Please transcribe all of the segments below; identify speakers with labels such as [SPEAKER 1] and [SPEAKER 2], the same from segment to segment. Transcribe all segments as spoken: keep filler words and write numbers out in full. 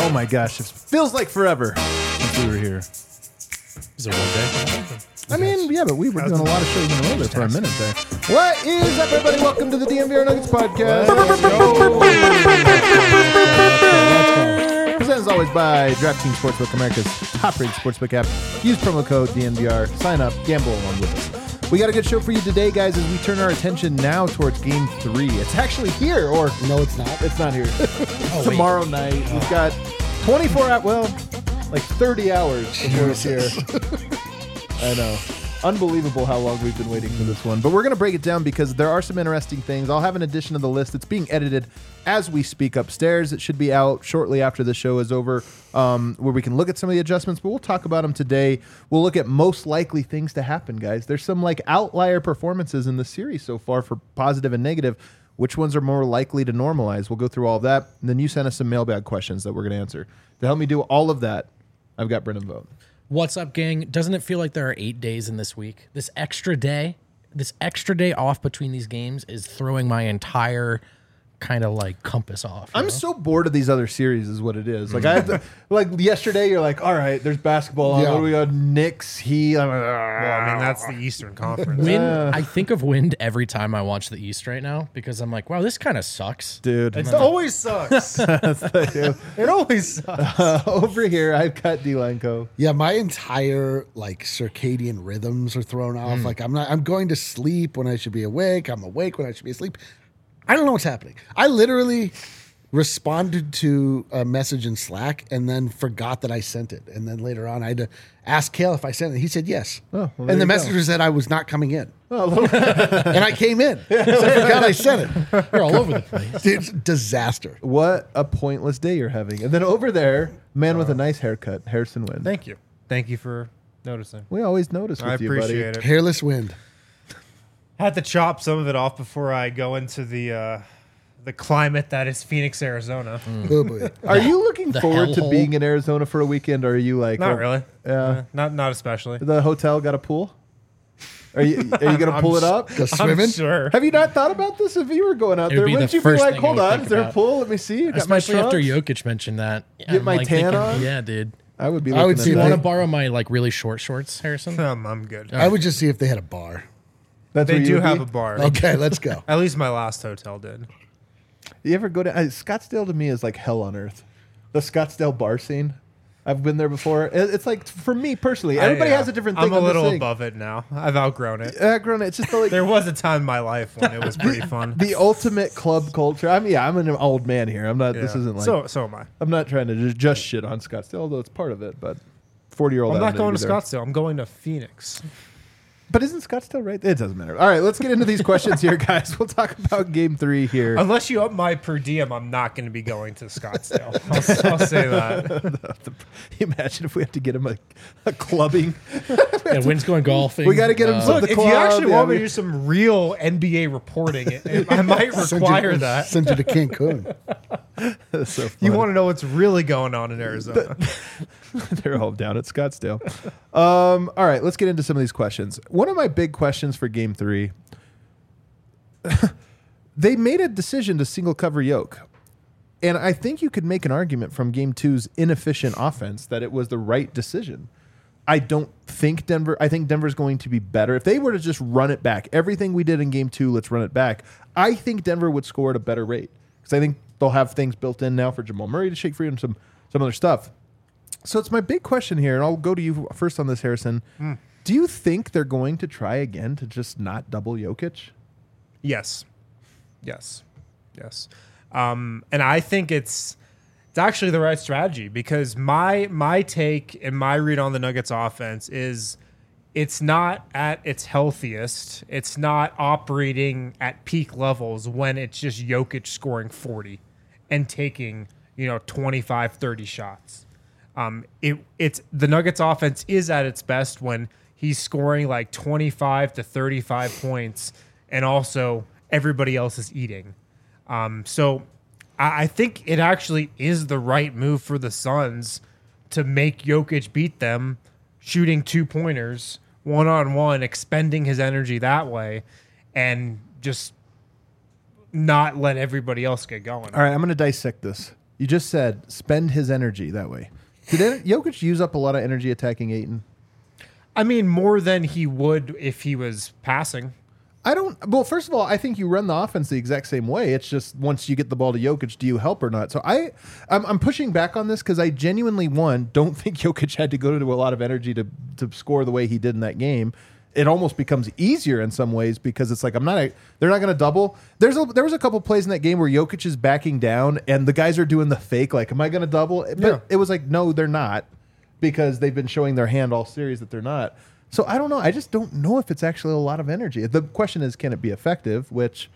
[SPEAKER 1] Oh my gosh, it feels like forever since we were here.
[SPEAKER 2] Is it one day?
[SPEAKER 1] I mean, yeah, but we were doing a lot of shows in a row there for a minute there. What is up, everybody? Welcome to the D M V R Nuggets podcast. Let's go. Presented as always by DraftKings Sportsbook, America's top-rated sportsbook app. Use promo code D M V R. Sign up, gamble along with us. We got a good show for you today, guys, as we turn our attention now towards Game Three. It's actually here, or
[SPEAKER 3] no, it's not.
[SPEAKER 1] It's not here.
[SPEAKER 2] Oh,
[SPEAKER 1] Tomorrow wait. night, oh. We've got twenty-four hours. Well, like thirty hours before it's here. I know. Unbelievable how long we've been waiting for this one. But we're going to break it down because there are some interesting things. I'll have an addition to the list. It's being edited as we speak upstairs. It should be out shortly after the show is over, um, where we can look at some of the adjustments, but we'll talk about them today. We'll look at most likely things to happen, guys. There's some like outlier performances in the series so far for positive and negative. Which ones are more likely to normalize? We'll go through all of that. And then you sent us some mailbag questions that we're going to answer. To help me do all of that, I've got Brendan Vogt.
[SPEAKER 2] What's up, gang? Doesn't it feel like there are eight days in this week? This extra day, this extra day off between these games is throwing my entire kind of like compass off.
[SPEAKER 1] I'm know? so bored of these other series is what it is. Like I have to, like yesterday you're like, all right, there's basketball on. Yeah. What do we got? Knicks, Heat. I'm like,
[SPEAKER 4] well, I mean, that's the Eastern Conference.
[SPEAKER 2] Wind, uh, I think of Wind every time I watch the East right now because I'm like, wow, this kind of sucks.
[SPEAKER 1] Dude.
[SPEAKER 4] It always sucks. It always sucks.
[SPEAKER 1] Uh, over here, I've got D-Line Co.
[SPEAKER 3] Yeah, my entire like circadian rhythms are thrown off. Mm. Like I'm not I'm going to sleep when I should be awake. I'm awake when I should be asleep. I don't know what's happening. I literally responded to a message in Slack and then forgot that I sent it. And then later on, I had to ask Kale if I sent it. He said yes. Oh, well, and the messenger said I was not coming in. Oh, and I came in. So I forgot I sent it.
[SPEAKER 2] You're all over the place.
[SPEAKER 3] It's disaster.
[SPEAKER 1] What a pointless day you're having. And then over there, man uh, with a nice haircut, Harrison Wind.
[SPEAKER 4] Thank you. Thank you for noticing.
[SPEAKER 1] We always notice with
[SPEAKER 4] I
[SPEAKER 1] you, buddy. I
[SPEAKER 4] appreciate it.
[SPEAKER 3] Hairless Wind.
[SPEAKER 4] I had to chop some of it off before I go into the uh, the climate that is Phoenix, Arizona.
[SPEAKER 3] Mm. Oh boy.
[SPEAKER 1] Are you looking
[SPEAKER 2] the
[SPEAKER 1] forward to
[SPEAKER 2] hellhole?
[SPEAKER 1] being in Arizona for a weekend, or are you like...
[SPEAKER 4] Not
[SPEAKER 1] oh,
[SPEAKER 4] really.
[SPEAKER 1] Yeah.
[SPEAKER 4] Uh, not not especially.
[SPEAKER 1] The hotel got a pool? Are you are you going to pull it up?
[SPEAKER 3] Go swimming?
[SPEAKER 4] I'm sure.
[SPEAKER 1] Have you not thought about this? If you were going out
[SPEAKER 2] It would
[SPEAKER 1] there,
[SPEAKER 2] be
[SPEAKER 1] wouldn't
[SPEAKER 2] the
[SPEAKER 1] you be
[SPEAKER 2] first
[SPEAKER 1] like,
[SPEAKER 2] thing I
[SPEAKER 1] hold
[SPEAKER 2] would
[SPEAKER 1] on,
[SPEAKER 2] think
[SPEAKER 1] is there a
[SPEAKER 2] about.
[SPEAKER 1] pool? Let me see. You got
[SPEAKER 2] Especially
[SPEAKER 1] my
[SPEAKER 2] after
[SPEAKER 1] trunks?
[SPEAKER 2] Jokic mentioned that.
[SPEAKER 1] Get
[SPEAKER 2] I'm
[SPEAKER 1] my
[SPEAKER 2] like
[SPEAKER 1] tan
[SPEAKER 2] thinking,
[SPEAKER 1] on?
[SPEAKER 2] Yeah, dude.
[SPEAKER 1] I would be
[SPEAKER 3] I would
[SPEAKER 1] looking
[SPEAKER 3] see
[SPEAKER 1] at
[SPEAKER 2] You
[SPEAKER 3] if
[SPEAKER 1] that.
[SPEAKER 2] want to borrow my like really short shorts, Harrison?
[SPEAKER 4] Um, I'm good.
[SPEAKER 3] I would just see if they had a bar.
[SPEAKER 1] That's
[SPEAKER 4] They
[SPEAKER 1] where you
[SPEAKER 4] do
[SPEAKER 1] would
[SPEAKER 4] have
[SPEAKER 1] be?
[SPEAKER 4] a bar.
[SPEAKER 3] Okay, let's go.
[SPEAKER 4] At least my last hotel did.
[SPEAKER 1] You ever go to... Uh, Scottsdale to me is like hell on earth. The Scottsdale bar scene. I've been there before. It- It's like, for me personally, everybody
[SPEAKER 4] I, uh,
[SPEAKER 1] has a different thing.
[SPEAKER 4] I'm a
[SPEAKER 1] on this
[SPEAKER 4] little
[SPEAKER 1] thing.
[SPEAKER 4] above it now. I've outgrown it.
[SPEAKER 1] Uh, grown, it's just the, like,
[SPEAKER 4] There was a time in my life when it was pretty fun.
[SPEAKER 1] the ultimate club culture. I mean, yeah, I'm an old man here. I'm not. This
[SPEAKER 4] Yeah.
[SPEAKER 1] isn't like.
[SPEAKER 4] so so am I.
[SPEAKER 1] I'm not trying to just, just shit on Scottsdale, although it's part of it. But forty year old.
[SPEAKER 4] I'm not going to Scottsdale. I'm going to Phoenix.
[SPEAKER 1] But isn't Scottsdale right? It doesn't matter. All right, let's get into these questions here, guys. We'll talk about Game Three here.
[SPEAKER 4] Unless you up my per diem, I'm not going to be going to Scottsdale. I'll, I'll say that.
[SPEAKER 1] Imagine if we have to get him a, a clubbing.
[SPEAKER 2] Yeah, Wind's going golfing.
[SPEAKER 1] We gotta get him
[SPEAKER 2] Uh,
[SPEAKER 1] some-
[SPEAKER 4] Look,
[SPEAKER 1] the
[SPEAKER 4] if you
[SPEAKER 1] club,
[SPEAKER 4] actually
[SPEAKER 1] yeah,
[SPEAKER 4] want me
[SPEAKER 1] we-
[SPEAKER 4] to do some real N B A reporting, it, it- I might require that.
[SPEAKER 3] Send you to Cancun.
[SPEAKER 1] That's so
[SPEAKER 4] You
[SPEAKER 1] funny.
[SPEAKER 4] want to know what's really going on in Arizona.
[SPEAKER 1] They're all down at Scottsdale. Um, all right, let's get into some of these questions. One of my big questions for Game Three. They made a decision to single cover Yoke. And I think you could make an argument from Game Two's inefficient offense that it was the right decision. I don't think Denver, I think Denver's going to be better. If they were to just run it back, everything we did in Game Two, let's run it back. I think Denver would score at a better rate because I think they'll have things built in now for Jamal Murray to shake free and some, some other stuff. So it's my big question here, and I'll go to you first on this, Harrison. Mm. Do you think they're going to try again to just not double Jokic?
[SPEAKER 4] Yes. Yes. Yes. Um, and I think it's it's actually the right strategy because my my take and my read on the Nuggets offense is it's not at its healthiest. It's not operating at peak levels when it's just Jokic scoring forty and taking, you know, twenty-five, thirty shots. Um, it it's the Nuggets offense is at its best when he's scoring like twenty-five to thirty-five points and also everybody else is eating. Um, so I, I think it actually is the right move for the Suns to make Jokic beat them, shooting two pointers, one on one, expending his energy that way, and just not let everybody else get going.
[SPEAKER 1] All right, I'm going to dissect this. You just said spend his energy that way. Did it, Jokic use up a lot of energy attacking Ayton?
[SPEAKER 4] I mean, more than he would if he was passing.
[SPEAKER 1] I don't. Well, first of all, I think you run the offense the exact same way. It's just once you get the ball to Jokic, do you help or not? So I, I'm, I'm pushing back on this because I genuinely, one, don't think Jokic had to go to a lot of energy to to score the way he did in that game. It almost becomes easier in some ways because it's like I'm not. A, they're not going to double. There's a, there was a couple plays in that game where Jokic is backing down and the guys are doing the fake. Like, am I going to double? But
[SPEAKER 4] Yeah.
[SPEAKER 1] it was like, no, they're not, because they've been showing their hand all series that they're not. So I don't know. I just don't know if it's actually a lot of energy. The question is, can it be effective? Which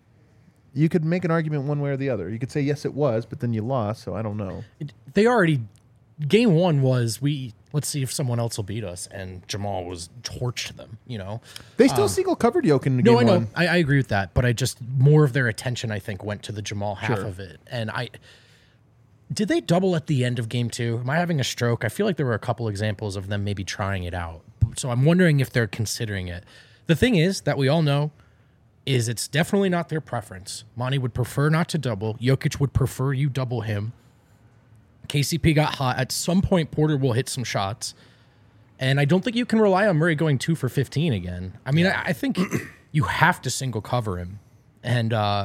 [SPEAKER 1] you could make an argument one way or the other. You could say yes, it was, but then you lost. So I don't know.
[SPEAKER 2] They already game one was we let's see if someone else will beat us, and Jamal was torched them. You know,
[SPEAKER 1] They still single covered Jokic in game
[SPEAKER 2] no, I know,
[SPEAKER 1] one.
[SPEAKER 2] I, I agree with that, but I just more of their attention I think went to the Jamal half
[SPEAKER 1] Sure.
[SPEAKER 2] of it, and I. Did they double at the end of game two? Am I having a stroke? I feel like there were a couple examples of them maybe trying it out. So I'm wondering if they're considering it. The thing is that we all know is it's definitely not their preference. Monty would prefer not to double. Jokic would prefer you double him. K C P got hot. At some point, Porter will hit some shots. And I don't think you can rely on Murray going two for fifteen again. I mean, I, I think you have to single cover him. And uh,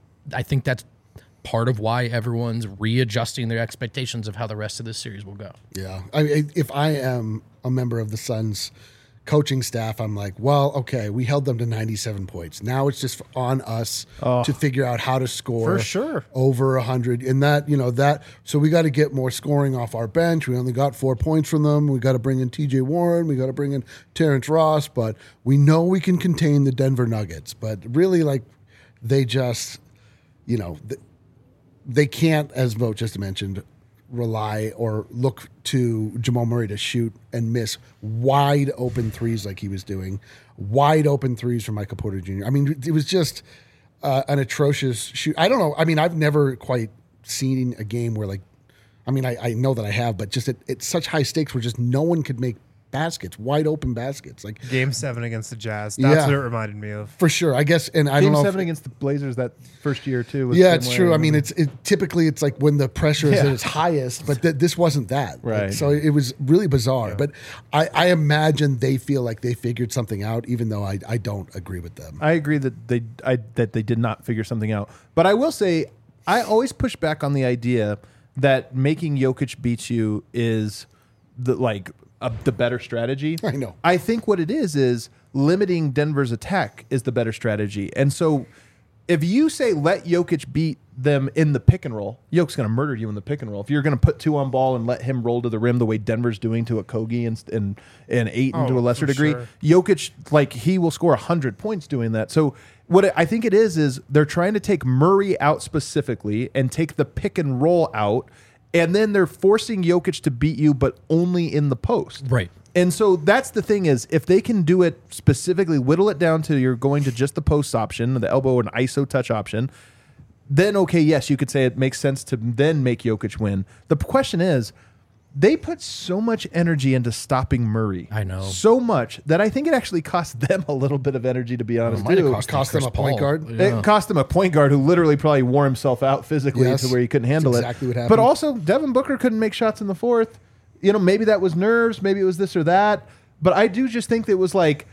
[SPEAKER 2] I think that's part of why everyone's readjusting their expectations of how the rest of this series will go.
[SPEAKER 3] Yeah. I mean, if I am a member of the Suns coaching staff, I'm like, well, okay, we held them to ninety-seven points. Now it's just on us to figure out how to score
[SPEAKER 1] For sure.
[SPEAKER 3] over one hundred. And that, you know, that, so we got to get more scoring off our bench. We only got four points from them. We got to bring in T J Warren. We got to bring in Terrence Ross. But we know we can contain the Denver Nuggets. But really, like, they just, you know, th- they can't, as Mo just mentioned, rely or look to Jamal Murray to shoot and miss wide open threes like he was doing, wide open threes from Michael Porter Junior I mean, it was just uh, an atrocious shoot. I don't know. I mean, I've never quite seen a game where, like, I mean, I, I know that I have, but just at, at such high stakes where just no one could make baskets, wide open baskets. Like
[SPEAKER 4] Game seven against the Jazz. That's
[SPEAKER 3] Yeah.
[SPEAKER 4] what it reminded me of.
[SPEAKER 3] for sure, I guess. And I
[SPEAKER 1] Game
[SPEAKER 3] don't know.
[SPEAKER 1] seven
[SPEAKER 3] if,
[SPEAKER 1] against the Blazers that first year too. Was
[SPEAKER 3] yeah,
[SPEAKER 1] the
[SPEAKER 3] it's
[SPEAKER 1] same
[SPEAKER 3] true.
[SPEAKER 1] way.
[SPEAKER 3] I mean, it's it, typically it's like when the pressure is
[SPEAKER 1] Yeah.
[SPEAKER 3] at its highest, but th- this wasn't that. Like,
[SPEAKER 1] Right.
[SPEAKER 3] so it was really bizarre. But I, I imagine they feel like they figured something out, even though I, I don't agree with them.
[SPEAKER 1] I agree that they I, that they did not figure something out. But I will say, I always push back on the idea that making Jokic beat you is the like a, the better strategy.
[SPEAKER 3] I know.
[SPEAKER 1] I think what it is is limiting Denver's attack is the better strategy. And so if you say let Jokic beat them in the pick and roll, Jokic's going to murder you in the pick and roll. If you're going to put two on ball and let him roll to the rim the way Denver's doing to a Kogi and and, and Ayton
[SPEAKER 4] Oh,
[SPEAKER 1] to a lesser
[SPEAKER 4] for
[SPEAKER 1] degree,
[SPEAKER 4] sure.
[SPEAKER 1] Jokic, like, he will score one hundred points doing that. So what it, I think it is is they're trying to take Murray out specifically and take the pick and roll out, and then they're forcing Jokic to beat you, but only in the post.
[SPEAKER 2] Right.
[SPEAKER 1] And so that's the thing is, if they can do it specifically, whittle it down to you're going to just the post option, the elbow and I S O touch option, then okay, yes, you could say it makes sense to then make Jokic win. The question is, they put so much energy into stopping Murray.
[SPEAKER 2] I know.
[SPEAKER 1] So much that I think it actually cost them a little bit of energy, to be honest,
[SPEAKER 2] might have
[SPEAKER 1] too.
[SPEAKER 2] cost
[SPEAKER 3] Cost them
[SPEAKER 2] Chris
[SPEAKER 3] a point
[SPEAKER 2] Paul.
[SPEAKER 3] guard?
[SPEAKER 2] Yeah.
[SPEAKER 1] It cost him a point guard who literally probably wore himself out physically
[SPEAKER 3] Yes,
[SPEAKER 1] to where he couldn't handle
[SPEAKER 3] that's
[SPEAKER 1] it.
[SPEAKER 3] exactly what
[SPEAKER 1] But
[SPEAKER 3] happened.
[SPEAKER 1] also, Devin Booker couldn't make shots in the fourth. You know, maybe that was nerves, maybe it was this or that. But I do just think that it was like,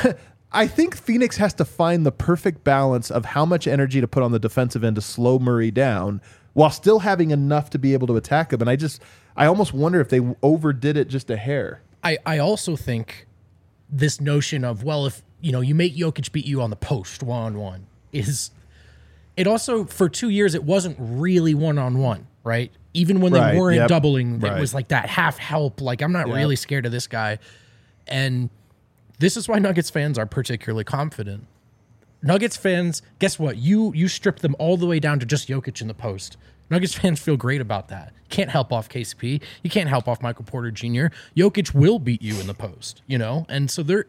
[SPEAKER 1] I think Phoenix has to find the perfect balance of how much energy to put on the defensive end to slow Murray down while still having enough to be able to attack him. And I just, I almost wonder if they overdid it just a hair.
[SPEAKER 2] I, I also think this notion of, well, if you know you make Jokic beat you on the post one on one is it also for two years it wasn't really one on one, right? Even when they
[SPEAKER 1] Right,
[SPEAKER 2] weren't
[SPEAKER 1] yep,
[SPEAKER 2] doubling,
[SPEAKER 1] right.
[SPEAKER 2] it was like that half help. Like I'm not
[SPEAKER 1] Yep.
[SPEAKER 2] really scared of this guy, and this is why Nuggets fans are particularly confident. Nuggets fans, guess what? You you strip them all the way down to just Jokic in the post. Nuggets fans feel great about that. Can't help off K C P. You can't help off Michael Porter Junior Jokic will beat you in the post, you know? And so they're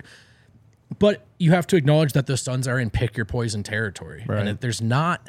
[SPEAKER 2] but you have to acknowledge that the Suns are in pick your poison territory.
[SPEAKER 1] Right.
[SPEAKER 2] And if there's not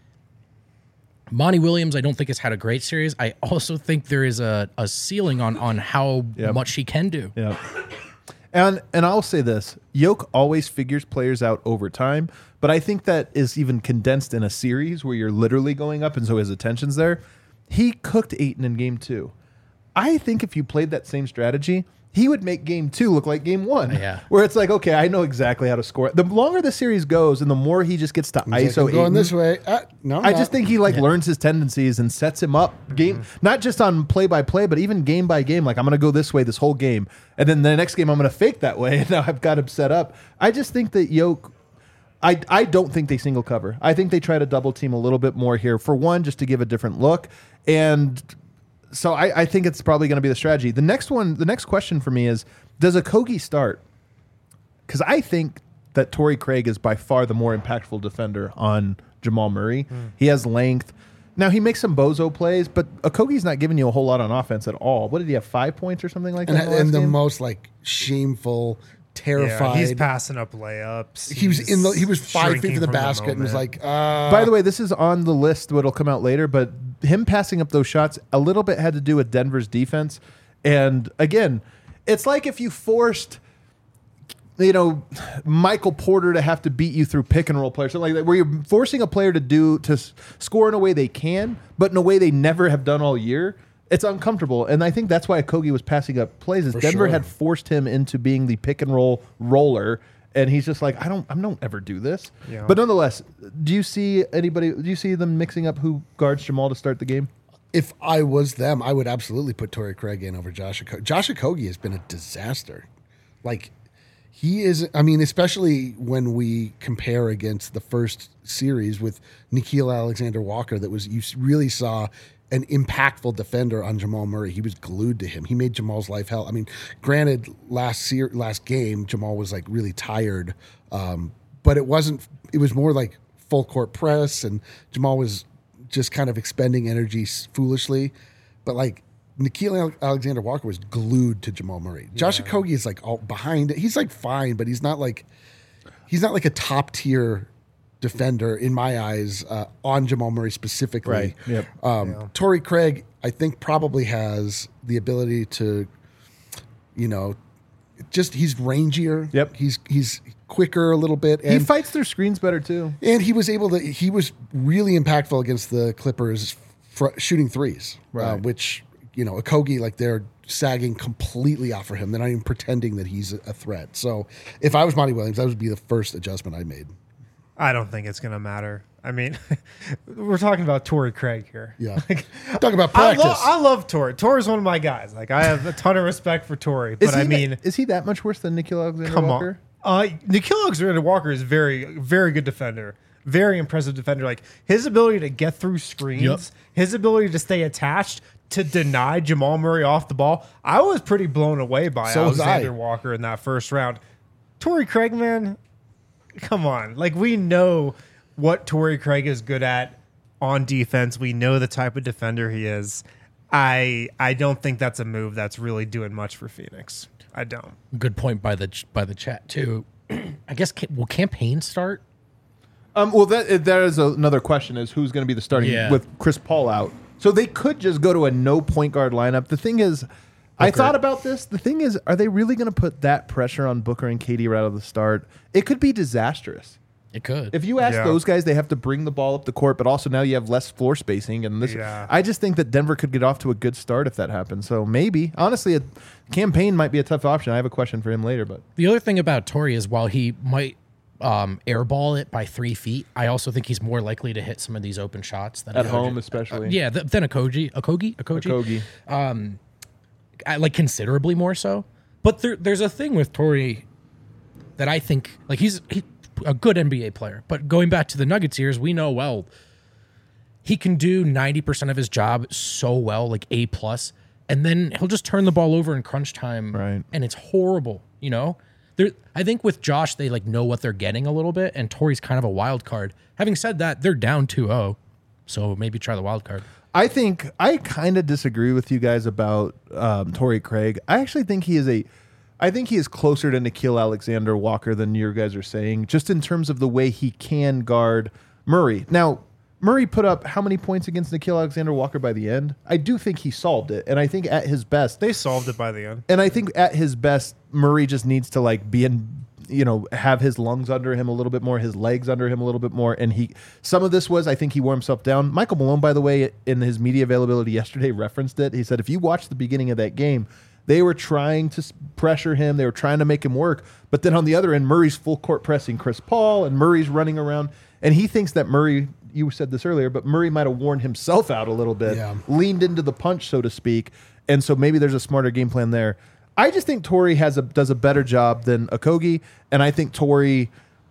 [SPEAKER 2] Monty Williams, I don't think has had a great series. I also think there is a, a ceiling on on how
[SPEAKER 1] Yep.
[SPEAKER 2] much he can do.
[SPEAKER 1] Yeah. And and I'll say this, Yoke always figures players out over time, but I think that is even condensed in a series where you're literally going up and so his attention's there. he cooked Ayton in game two. I think if you played that same strategy, he would make game two look like game one.
[SPEAKER 2] Yeah.
[SPEAKER 1] Where it's like, okay, I know exactly how to score. The longer the series goes and the more he just gets to
[SPEAKER 3] He's
[SPEAKER 1] I S O
[SPEAKER 3] like, I'm going
[SPEAKER 1] Ayton,
[SPEAKER 3] this way. Uh, no, I'm
[SPEAKER 1] I
[SPEAKER 3] not.
[SPEAKER 1] just think he like learns his tendencies and sets him up game, not just on play by play, but even game by game. Like I'm going to go this way this whole game, and then the next game I'm going to fake that way, and now I've got him set up. I just think that Yoke. I, I don't think they single cover. I think they try to double team a little bit more here. For one, just to give a different look, and so I, I think it's probably going to be the strategy. The next one, the next question for me is: does Okogie start? Because I think that Torrey Craig is by far the more impactful defender on Jamal Murray. Mm. He has length. Now, he makes some bozo plays, but Okogie's not giving you a whole lot on offense at all. What did he have, five points or something like
[SPEAKER 3] and,
[SPEAKER 1] that? In the,
[SPEAKER 3] and the
[SPEAKER 1] game?
[SPEAKER 3] most like shameful, terrified.
[SPEAKER 4] Yeah, he's passing up layups.
[SPEAKER 3] He was in the. He was five feet
[SPEAKER 4] shrinking
[SPEAKER 3] from the
[SPEAKER 4] from the
[SPEAKER 3] basket and was
[SPEAKER 4] moment.
[SPEAKER 3] like, uh,
[SPEAKER 1] By the way, this is on the list, what'll come out later, but him passing up those shots a little bit had to do with Denver's defense. And again, it's like if you forced, you know, Michael Porter to have to beat you through pick and roll players, something like that, where you're forcing a player to do to s- score in a way they can, but in a way they never have done all year. It's uncomfortable, and I think that's why Okogie was passing up plays. Is
[SPEAKER 3] For
[SPEAKER 1] Denver
[SPEAKER 3] sure.
[SPEAKER 1] had forced him into being the pick and roll roller, and he's just like, I don't, I don't ever do this.
[SPEAKER 4] Yeah.
[SPEAKER 1] But nonetheless, do you see anybody? Do you see them mixing up who guards Jamal to start the game?
[SPEAKER 3] if I was them, I would absolutely put Torrey Craig in over Josh Okogie. Josh Okogie has been a disaster. Like, he is, I mean, especially when we compare against the first series with Nickeil Alexander-Walker, that was, you really saw an impactful defender on Jamal Murray. He was glued to him. He made Jamal's life hell. I mean, granted, last ser- last game, Jamal was like really tired, um, but it wasn't, it was more like full court press, and Jamal was just kind of expending energy foolishly. But like, Nickeil Alexander-Walker was glued to Jamal Murray. Yeah. Josh Okogie is like all behind it. He's like fine, but he's not like he's not like a top tier defender in my eyes uh, on Jamal Murray specifically.
[SPEAKER 1] Right. Yep.
[SPEAKER 3] Um,
[SPEAKER 4] Yeah.
[SPEAKER 3] Torrey Craig, I think, probably has the ability to, you know, just he's rangier.
[SPEAKER 1] Yep.
[SPEAKER 3] He's he's quicker a little bit. And
[SPEAKER 1] he fights through screens better too.
[SPEAKER 3] and he was able to. He was really impactful against the Clippers, fr- shooting threes, uh,
[SPEAKER 1] Right.
[SPEAKER 3] which, you know, Okogie, like, they're sagging completely off for him. They're not even pretending that he's a a threat. So if I was Monty Williams, that would be the first adjustment I made.
[SPEAKER 4] I don't think it's going to matter. I mean, we're talking about Torrey Craig here.
[SPEAKER 3] Yeah. Talk about
[SPEAKER 4] I,
[SPEAKER 3] practice.
[SPEAKER 4] lo- I love Torrey. Torrey's one of my guys. Like, I have a ton of respect for Torrey. But
[SPEAKER 1] Is he
[SPEAKER 4] I mean,
[SPEAKER 1] that, is he that much worse than Nickeil Alexander
[SPEAKER 4] come
[SPEAKER 1] Walker?
[SPEAKER 4] on. Uh, Nickeil Alexander-Walker is very, very good defender. Very impressive defender. Like, his ability to get through screens,
[SPEAKER 2] Yep.
[SPEAKER 4] his ability to stay attached, to deny Jamal Murray off the ball. I was pretty blown away by
[SPEAKER 3] So was I.
[SPEAKER 4] Alexander Walker in that first round. Torrey Craig, man, come on. Like, we know what Torrey Craig is good at on defense. We know the type of defender he is. I I don't think that's a move that's really doing much for Phoenix. I don't.
[SPEAKER 2] Good point by the ch- by the chat too. I guess ca- will campaign start?
[SPEAKER 1] Um, well, that that is another question: is who's going to be the starting
[SPEAKER 2] Yeah.
[SPEAKER 1] with Chris Paul out? So they could just go to a no point guard lineup. The thing is, I
[SPEAKER 2] Booker.
[SPEAKER 1] thought about this. The thing is, are they really going to put that pressure on Booker and K D right out of the start? It could be disastrous.
[SPEAKER 2] It could.
[SPEAKER 1] If you ask
[SPEAKER 4] Yeah.
[SPEAKER 1] those guys, they have to bring the ball up the court, but also now you have less floor spacing. And this,
[SPEAKER 4] Yeah.
[SPEAKER 1] I just think that Denver could get off to a good start if that happens. So maybe, honestly, a campaign might be a tough option. I have a question for him later, but
[SPEAKER 2] The other thing about Torrey is while he might um, airball it by three feet, I also think he's more likely to hit some of these open shots than
[SPEAKER 1] at
[SPEAKER 2] Okogie.
[SPEAKER 1] home especially,
[SPEAKER 2] Yeah, th- than Okogie, Okogie, Okogie,
[SPEAKER 1] Okogie.
[SPEAKER 2] I, like considerably more so. But there, there's a thing with Torrey that I think, like, he's he, a good N B A player. But going back to the Nuggets years, we know well he can do ninety percent of his job so well, like A plus, and then he'll just turn the ball over in crunch time,
[SPEAKER 1] Right.
[SPEAKER 2] and it's horrible. You know, there. I think with Josh, they like know what they're getting a little bit, and Torrey's kind of a wild card. Having said that, they're down two oh, so maybe try the wild card.
[SPEAKER 1] I think I kind of disagree with you guys about um, Torrey Craig. I actually think he is a, I think he is closer to Nickeil Alexander Walker than you guys are saying, just in terms of the way he can guard Murray. Now, Murray put up how many points against Nickeil Alexander Walker by the end? I do think he solved it, and I think at his best,
[SPEAKER 4] They solved it by the end.
[SPEAKER 1] and I think at his best, Murray just needs to like be in. you know, have his lungs under him a little bit more, his legs under him a little bit more. And he, some of this was, I think he wore himself down. Michael Malone, by the way, in his media availability yesterday, referenced it. He said, if you watch the beginning of that game, they were trying to s- pressure him. They were trying to make him work. But then on the other end, Murray's full court pressing Chris Paul, and Murray's running around. And he thinks that Murray, you said this earlier, but Murray might have worn himself out a little bit,
[SPEAKER 3] Yeah.
[SPEAKER 1] leaned into the punch, so to speak. And so maybe there's a smarter game plan there. I just think Torrey has a does a better job than Okogie, and I think Torrey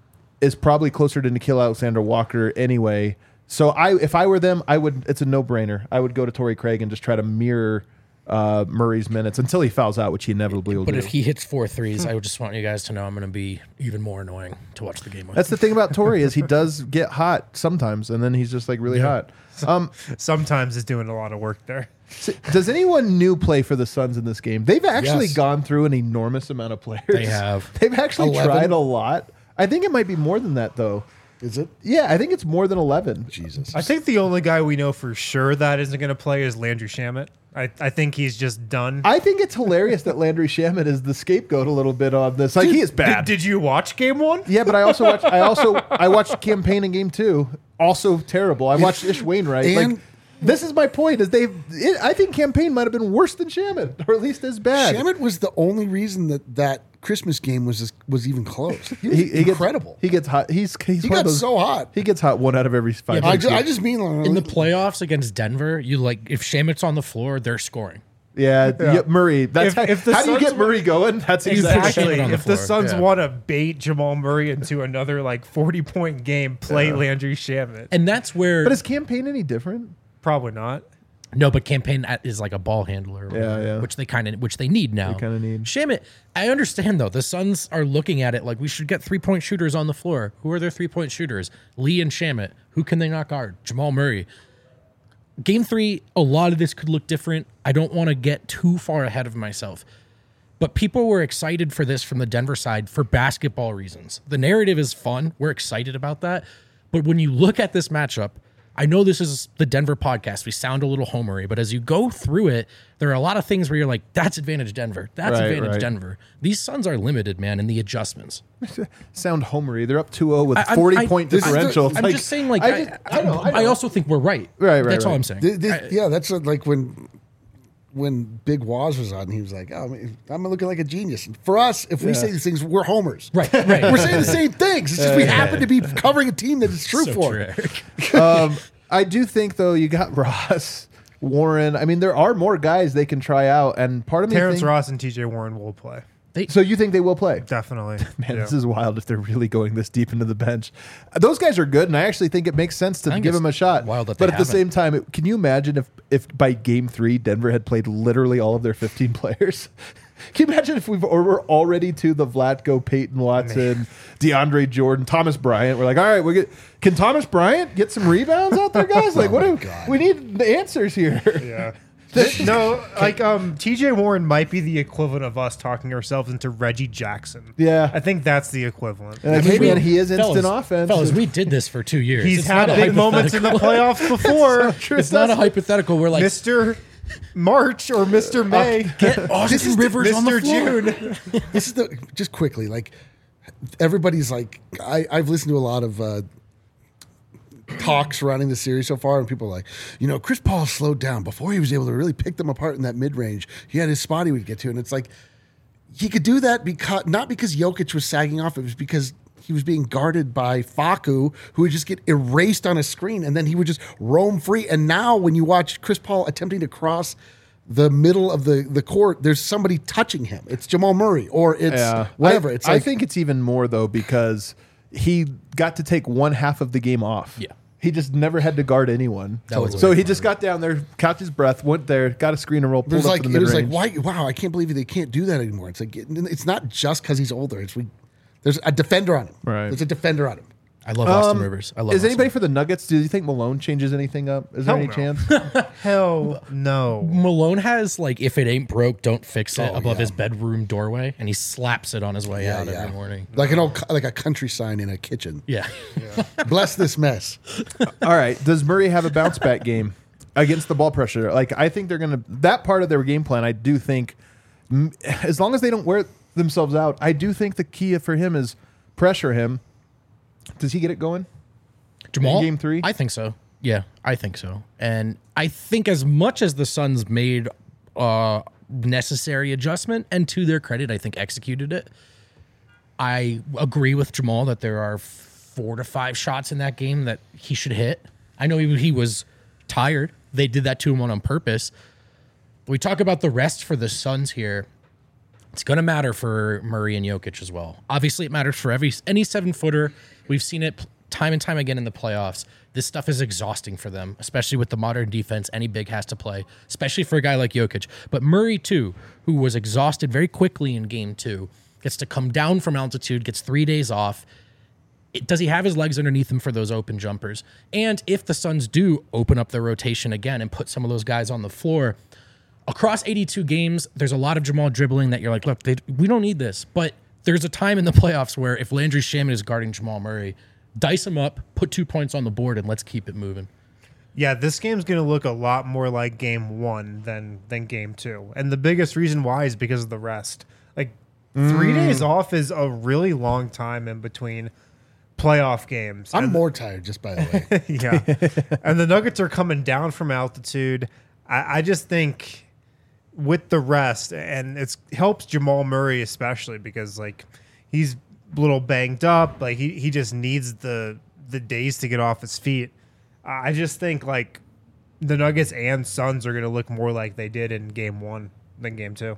[SPEAKER 1] is probably closer to Nikhil Alexander-Walker anyway. So I, if I were them, I would. It's a no-brainer. I would go to Torrey Craig and just try to mirror uh, Murray's minutes until he fouls out, which he inevitably will
[SPEAKER 2] But
[SPEAKER 1] do.
[SPEAKER 2] if he hits four threes, I would just want you guys to know I'm going to be even more annoying to watch the game with.
[SPEAKER 1] That's the thing about Torrey is he does get hot sometimes, and then he's just like really hot. Um,
[SPEAKER 4] Sometimes is doing a lot of work there.
[SPEAKER 1] so does anyone new play for the Suns in this game? They've actually
[SPEAKER 3] Yes.
[SPEAKER 1] gone through an enormous amount of players.
[SPEAKER 2] They have.
[SPEAKER 1] They've actually
[SPEAKER 3] eleven?
[SPEAKER 1] tried a lot. I think it might be more than that, though.
[SPEAKER 3] Is it?
[SPEAKER 1] Yeah, I think it's more than eleven.
[SPEAKER 3] Jesus.
[SPEAKER 4] I think the only guy we know for sure that isn't going to play is Landry Shamet. I, I think he's just done.
[SPEAKER 1] I think it's hilarious that Landry Shamet is the scapegoat a little bit on this. Like he is bad.
[SPEAKER 4] Did, did you watch game one?
[SPEAKER 1] Yeah, but I also watched. I also I watched Campaign in game two. Also terrible. I watched Ish Wainwright.
[SPEAKER 3] And-
[SPEAKER 1] like this is my point. Is they? It, I think Campaign might have been worse than Shamet, or at least as bad.
[SPEAKER 3] Shamet was the only reason that that Christmas game was was even close. He was
[SPEAKER 1] He, he
[SPEAKER 3] incredible.
[SPEAKER 1] Gets, he gets hot. He's he's
[SPEAKER 3] He
[SPEAKER 1] one of
[SPEAKER 3] got
[SPEAKER 1] those-
[SPEAKER 3] so hot.
[SPEAKER 1] He gets hot one out of every five.
[SPEAKER 3] I,
[SPEAKER 1] games.
[SPEAKER 3] ju- I just mean like,
[SPEAKER 2] In the playoffs against Denver, you like if Shamit's on the floor, they're scoring.
[SPEAKER 1] yeah, yeah, Murray. That's
[SPEAKER 4] If-
[SPEAKER 1] how,
[SPEAKER 4] if the
[SPEAKER 1] how do you
[SPEAKER 4] Suns
[SPEAKER 1] get Murray going? That's
[SPEAKER 2] Exactly.
[SPEAKER 1] exactly.
[SPEAKER 2] Shamet on the
[SPEAKER 4] If the
[SPEAKER 2] floor,
[SPEAKER 4] Suns
[SPEAKER 2] yeah.
[SPEAKER 4] want to bait Jamal Murray into another like forty point game, play Landry Shamet.
[SPEAKER 2] And that's where
[SPEAKER 1] But is Campaign any different?
[SPEAKER 4] Probably not.
[SPEAKER 2] no, but Campaign at- is like a ball handler, or whatever,
[SPEAKER 1] yeah.
[SPEAKER 2] which they kind of which they need now.
[SPEAKER 1] kinda need.
[SPEAKER 2] Shamit, I understand though. The Suns are looking at it like we should get three point shooters on the floor. Who are their three point shooters? Lee and Shamit. Who can they not guard? Jamal Murray. Game three, a lot of this could look different. I don't want to get too far ahead of myself. But people were excited for this from the Denver side for basketball reasons. The narrative is fun. We're excited about that. But when you look at this matchup, I know this is the Denver podcast. We sound a little homery, but as you go through it, there are a lot of things where you're like, that's advantage Denver. That's
[SPEAKER 1] Right,
[SPEAKER 2] advantage
[SPEAKER 1] right.
[SPEAKER 2] Denver. These Suns are limited, man, in the adjustments.
[SPEAKER 1] Sound homery. They're up two oh with
[SPEAKER 2] I- I'm-
[SPEAKER 1] forty
[SPEAKER 2] I-
[SPEAKER 1] point
[SPEAKER 3] this is the-
[SPEAKER 1] differential. It's
[SPEAKER 2] I'm
[SPEAKER 1] like-
[SPEAKER 2] just saying, like,
[SPEAKER 1] I,
[SPEAKER 2] I,
[SPEAKER 1] just- I know. I,
[SPEAKER 2] I
[SPEAKER 1] know.
[SPEAKER 2] also think we're right.
[SPEAKER 1] Right, right,
[SPEAKER 2] That's all
[SPEAKER 1] right.
[SPEAKER 2] I'm saying.
[SPEAKER 3] Th- th-
[SPEAKER 2] I-
[SPEAKER 3] yeah, that's what, like when when Big Waz was on, he was like, "Oh, I mean, I'm looking like a genius." And for us, if we
[SPEAKER 1] Yeah.
[SPEAKER 3] say these things, we're homers.
[SPEAKER 2] Right, right.
[SPEAKER 3] We're saying the same things. It's just we happen to be covering a team that it's true
[SPEAKER 2] So
[SPEAKER 3] for.
[SPEAKER 2] true, Eric.
[SPEAKER 1] um, I do think though you got Ross, Warren. I mean, there are more guys they can try out, and part of me
[SPEAKER 4] Terrence
[SPEAKER 1] think,
[SPEAKER 4] Ross and T J Warren will play.
[SPEAKER 1] So you think they will play?
[SPEAKER 4] Definitely.
[SPEAKER 1] Man,
[SPEAKER 4] Yeah.
[SPEAKER 1] this is wild if they're really going this deep into the bench. Those guys are good, and I actually think it makes sense to
[SPEAKER 2] I think
[SPEAKER 1] give
[SPEAKER 2] it's
[SPEAKER 1] them a shot.
[SPEAKER 2] wild that
[SPEAKER 1] but
[SPEAKER 2] they
[SPEAKER 1] at the
[SPEAKER 2] haven't.
[SPEAKER 1] same time, it, can you imagine if, if by game three Denver had played literally all of their fifteen players? Can you imagine if we've or we're already to the Vlatko, Peyton Watson, DeAndre Jordan, Thomas Bryant? We're like, all right, we get can Thomas Bryant get some rebounds out there, guys? Like, what?
[SPEAKER 3] Oh,
[SPEAKER 1] do,
[SPEAKER 3] God.
[SPEAKER 1] we need the answers here.
[SPEAKER 4] Yeah. no, like um, T J Warren might be the equivalent of us talking ourselves into Reggie Jackson.
[SPEAKER 1] Yeah.
[SPEAKER 4] I think that's the equivalent.
[SPEAKER 1] And like,
[SPEAKER 2] I mean,
[SPEAKER 1] hey,
[SPEAKER 2] we-
[SPEAKER 1] man, he is instant
[SPEAKER 2] fellas,
[SPEAKER 1] offense.
[SPEAKER 2] Fellas, we did this for two years.
[SPEAKER 4] He's
[SPEAKER 2] It's
[SPEAKER 4] had
[SPEAKER 2] not a
[SPEAKER 4] big moments in the
[SPEAKER 2] hypothetical.
[SPEAKER 4] playoffs before.
[SPEAKER 1] True.
[SPEAKER 2] It's not a hypothetical. We're like,
[SPEAKER 4] Mister March or Mister May.
[SPEAKER 2] get Austin Rivers on the
[SPEAKER 4] Mister
[SPEAKER 2] floor.
[SPEAKER 4] June.
[SPEAKER 3] This is the just quickly like everybody's like I, I've listened to a lot of uh, talks surrounding the series so far, and people are like, you know, Chris Paul slowed down before he was able to really pick them apart in that mid range. He had his spot he would get to, and it's like he could do that because not because Jokic was sagging off, it was because he was being guarded by Facu, who would just get erased on a screen, and then he would just roam free. And now, when you watch Chris Paul attempting to cross the middle of the, the court, there's somebody touching him. It's Jamal Murray, or it's
[SPEAKER 1] Yeah.
[SPEAKER 3] whatever.
[SPEAKER 1] I,
[SPEAKER 3] It's
[SPEAKER 1] I
[SPEAKER 3] like,
[SPEAKER 1] think it's even more though because he got to take one half of the game off.
[SPEAKER 2] Yeah.
[SPEAKER 1] He just never had to guard anyone.
[SPEAKER 2] That was
[SPEAKER 1] so
[SPEAKER 2] way
[SPEAKER 1] he just got down there, caught his breath, went there, got a screen and roll,
[SPEAKER 3] it
[SPEAKER 1] pulled
[SPEAKER 3] was
[SPEAKER 1] up
[SPEAKER 3] like
[SPEAKER 1] to the
[SPEAKER 3] it was like
[SPEAKER 1] mid-range.
[SPEAKER 3] why? Wow, I can't believe they can't do that anymore. It's like it- it's not just because he's older. It's we there's a defender on him.
[SPEAKER 1] Right.
[SPEAKER 3] There's a defender on him.
[SPEAKER 2] I love Austin
[SPEAKER 1] Um,
[SPEAKER 2] Rivers. I love.
[SPEAKER 1] Is
[SPEAKER 2] Austin.
[SPEAKER 1] anybody for the Nuggets? Do you think Malone changes anything up? Is there
[SPEAKER 4] Hell
[SPEAKER 1] any
[SPEAKER 4] no.
[SPEAKER 1] chance?
[SPEAKER 4] Hell no.
[SPEAKER 2] Malone has like, if it ain't broke, don't fix it
[SPEAKER 3] Oh,
[SPEAKER 2] above
[SPEAKER 3] yeah.
[SPEAKER 2] his bedroom doorway, and he slaps it on his way out every morning.
[SPEAKER 3] Like an old co- like a country sign in a kitchen.
[SPEAKER 2] Yeah.
[SPEAKER 3] Bless this mess.
[SPEAKER 1] All right. Does Murray have a bounce back game against the ball pressure? Like I think they're gonna that part of their game plan. I do think, m- as long as they don't wear themselves out. I do think the key for him is pressure him. Does he get it going?
[SPEAKER 2] Jamal?
[SPEAKER 1] In game three?
[SPEAKER 2] I think so. Yeah, I think so. And I think as much as the Suns made uh, necessary adjustment, and to their credit, I think executed it, I agree with Jamal that there are four to five shots in that game that he should hit. I know he, he was tired. They did that to him on, on purpose. We talk about the rest for the Suns here. It's going to matter for Murray and Jokic as well. Obviously, it matters for every any seven-footer. We've seen it time and time again in the playoffs. This stuff is exhausting for them, especially with the modern defense any big has to play, especially for a guy like Jokic. But Murray, too, who was exhausted very quickly in game two, gets to come down from altitude, gets three days off. It, does he have his legs underneath him for those open jumpers? And if the Suns do open up their rotation again and put some of those guys on the floor, across eighty-two games, there's a lot of Jamal dribbling that you're like, look, they, we don't need this. But there's a time in the playoffs where if Landry Shamet is guarding Jamal Murray, dice him up, put two points on the board, and let's keep it moving.
[SPEAKER 4] Yeah, this game's going to look a lot more like game one than than game two. And the biggest reason why is because of the rest. Like, three mm. days off is a really long time in between playoff games.
[SPEAKER 3] I'm
[SPEAKER 4] and
[SPEAKER 3] more tired, just by the way.
[SPEAKER 4] Yeah. And the Nuggets are coming down from altitude. I, I just think with the rest, and it helps Jamal Murray especially because, like, he's a little banged up. Like, he, he just needs the the days to get off his feet. I just think, like, the Nuggets and Suns are going to look more like they did in game one than game two.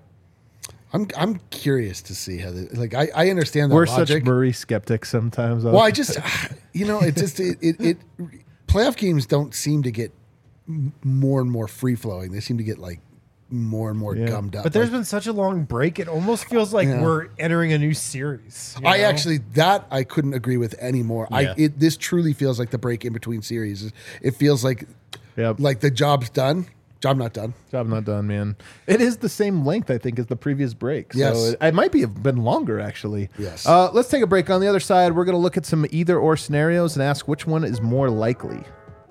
[SPEAKER 3] I'm I'm curious to see how they, like I, I understand that
[SPEAKER 1] We're
[SPEAKER 3] logic.
[SPEAKER 1] such Murray skeptics sometimes.
[SPEAKER 3] Well, I just you know it just it, it, it playoff games don't seem to get more and more free flowing. They seem to get like more and more
[SPEAKER 1] Yeah.
[SPEAKER 3] gummed up.
[SPEAKER 4] But there's
[SPEAKER 3] like,
[SPEAKER 4] been such a long break, it almost feels like
[SPEAKER 3] Yeah.
[SPEAKER 4] we're entering a new series. you
[SPEAKER 3] I
[SPEAKER 4] know?
[SPEAKER 3] actually that I couldn't agree with anymore.
[SPEAKER 2] Yeah.
[SPEAKER 3] I it this truly feels like the break in between series. It feels like
[SPEAKER 1] Yep.
[SPEAKER 3] like the job's done. Job not done.
[SPEAKER 1] Job not done, man. It is the same length, I think, as the previous break. So
[SPEAKER 3] Yes.
[SPEAKER 1] it, it might be have been longer, actually.
[SPEAKER 3] Yes.
[SPEAKER 1] Uh, let's take a break. On the other side, we're going to look at some either-or scenarios and ask which one is more likely.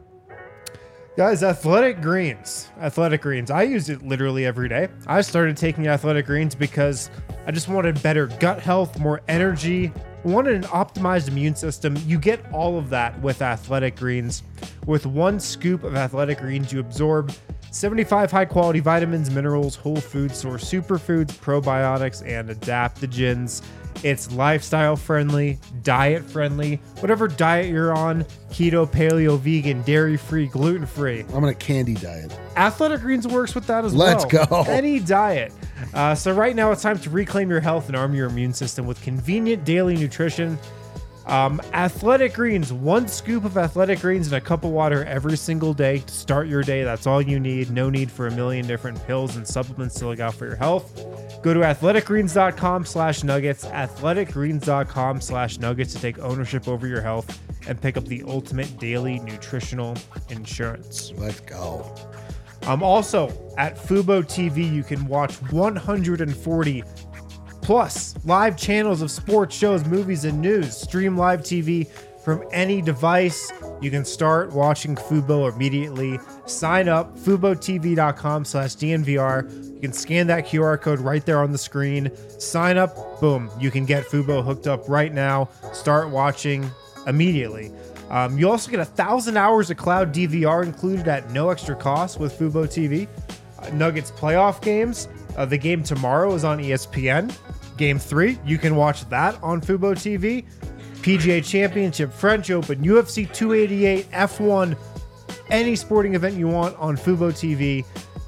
[SPEAKER 4] Guys, Athletic Greens. Athletic Greens. I use it literally every day. I started taking Athletic Greens because I just wanted better gut health, more energy, wanted an optimized immune system. You get all of that with Athletic Greens. With one scoop of Athletic Greens, you absorb seventy-five high-quality vitamins, minerals, whole food source superfoods, probiotics, and adaptogens. It's lifestyle-friendly, diet-friendly, whatever diet you're on, keto, paleo, vegan, dairy-free, gluten-free.
[SPEAKER 3] I'm on a candy diet.
[SPEAKER 4] Athletic Greens works with that as
[SPEAKER 3] Let's
[SPEAKER 4] well.
[SPEAKER 3] go.
[SPEAKER 4] Any diet. Uh, so right now it's time to reclaim your health and arm your immune system with convenient daily nutrition. Um, Athletic Greens, one scoop of Athletic Greens in a cup of water every single day to start your day. That's all you need. No need for a million different pills and supplements to look out for your health. Go to athleticgreens.com slash nuggets, athleticgreens.com slash nuggets to take ownership over your health and pick up the ultimate daily nutritional insurance.
[SPEAKER 3] Let's go.
[SPEAKER 4] Um, also, at Fubo T V, you can watch one hundred forty plus live channels of sports, shows, movies, and news. Stream live T V from any device. You can start watching Fubo immediately. Sign up, FuboTV.com slash DNVR. You can scan that Q R code right there on the screen. Sign up, boom. You can get Fubo hooked up right now. Start watching immediately. Um, you also get a thousand hours of cloud D V R included at no extra cost with Fubo T V. Uh, Nuggets playoff games. Uh, the game tomorrow is on E S P N. Game three, you can watch that on Fubo T V. P G A Championship, French Open, U F C two eighty-eight, F one, any sporting event you want on Fubo T V.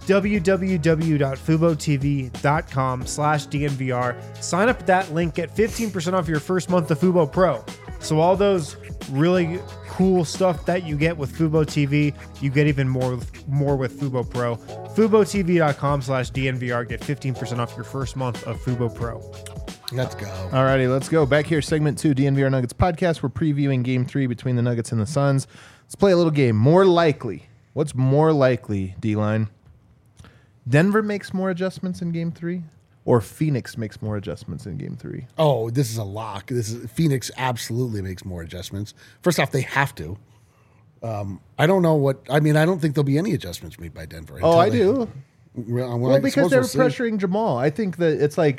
[SPEAKER 4] www.fubotv.com slash DNVR. Sign up at that link, get fifteen percent off your first month of Fubo Pro. So all those really cool stuff that you get with Fubo T V, you get even more with, more with Fubo Pro. FuboTV.com slash DNVR. Get fifteen percent off your first month of Fubo Pro.
[SPEAKER 3] Let's go.
[SPEAKER 1] All righty, let's go. Back here, segment two, D N V R Nuggets podcast. We're previewing game three between the Nuggets and the Suns. Let's play a little game. More likely. What's more likely, D-Line? Denver makes more adjustments in game three? Or Phoenix makes more adjustments in game three?
[SPEAKER 3] Oh, this is a lock. This is Phoenix absolutely makes more adjustments. First off, they have to. Um, I don't know what I mean. I don't think there'll be any adjustments made by Denver.
[SPEAKER 1] Oh, I
[SPEAKER 3] they,
[SPEAKER 1] do.
[SPEAKER 3] Well,
[SPEAKER 1] Well,
[SPEAKER 3] I
[SPEAKER 1] because
[SPEAKER 3] suppose
[SPEAKER 1] they were
[SPEAKER 3] we'll see.
[SPEAKER 1] pressuring Jamal. I think that it's like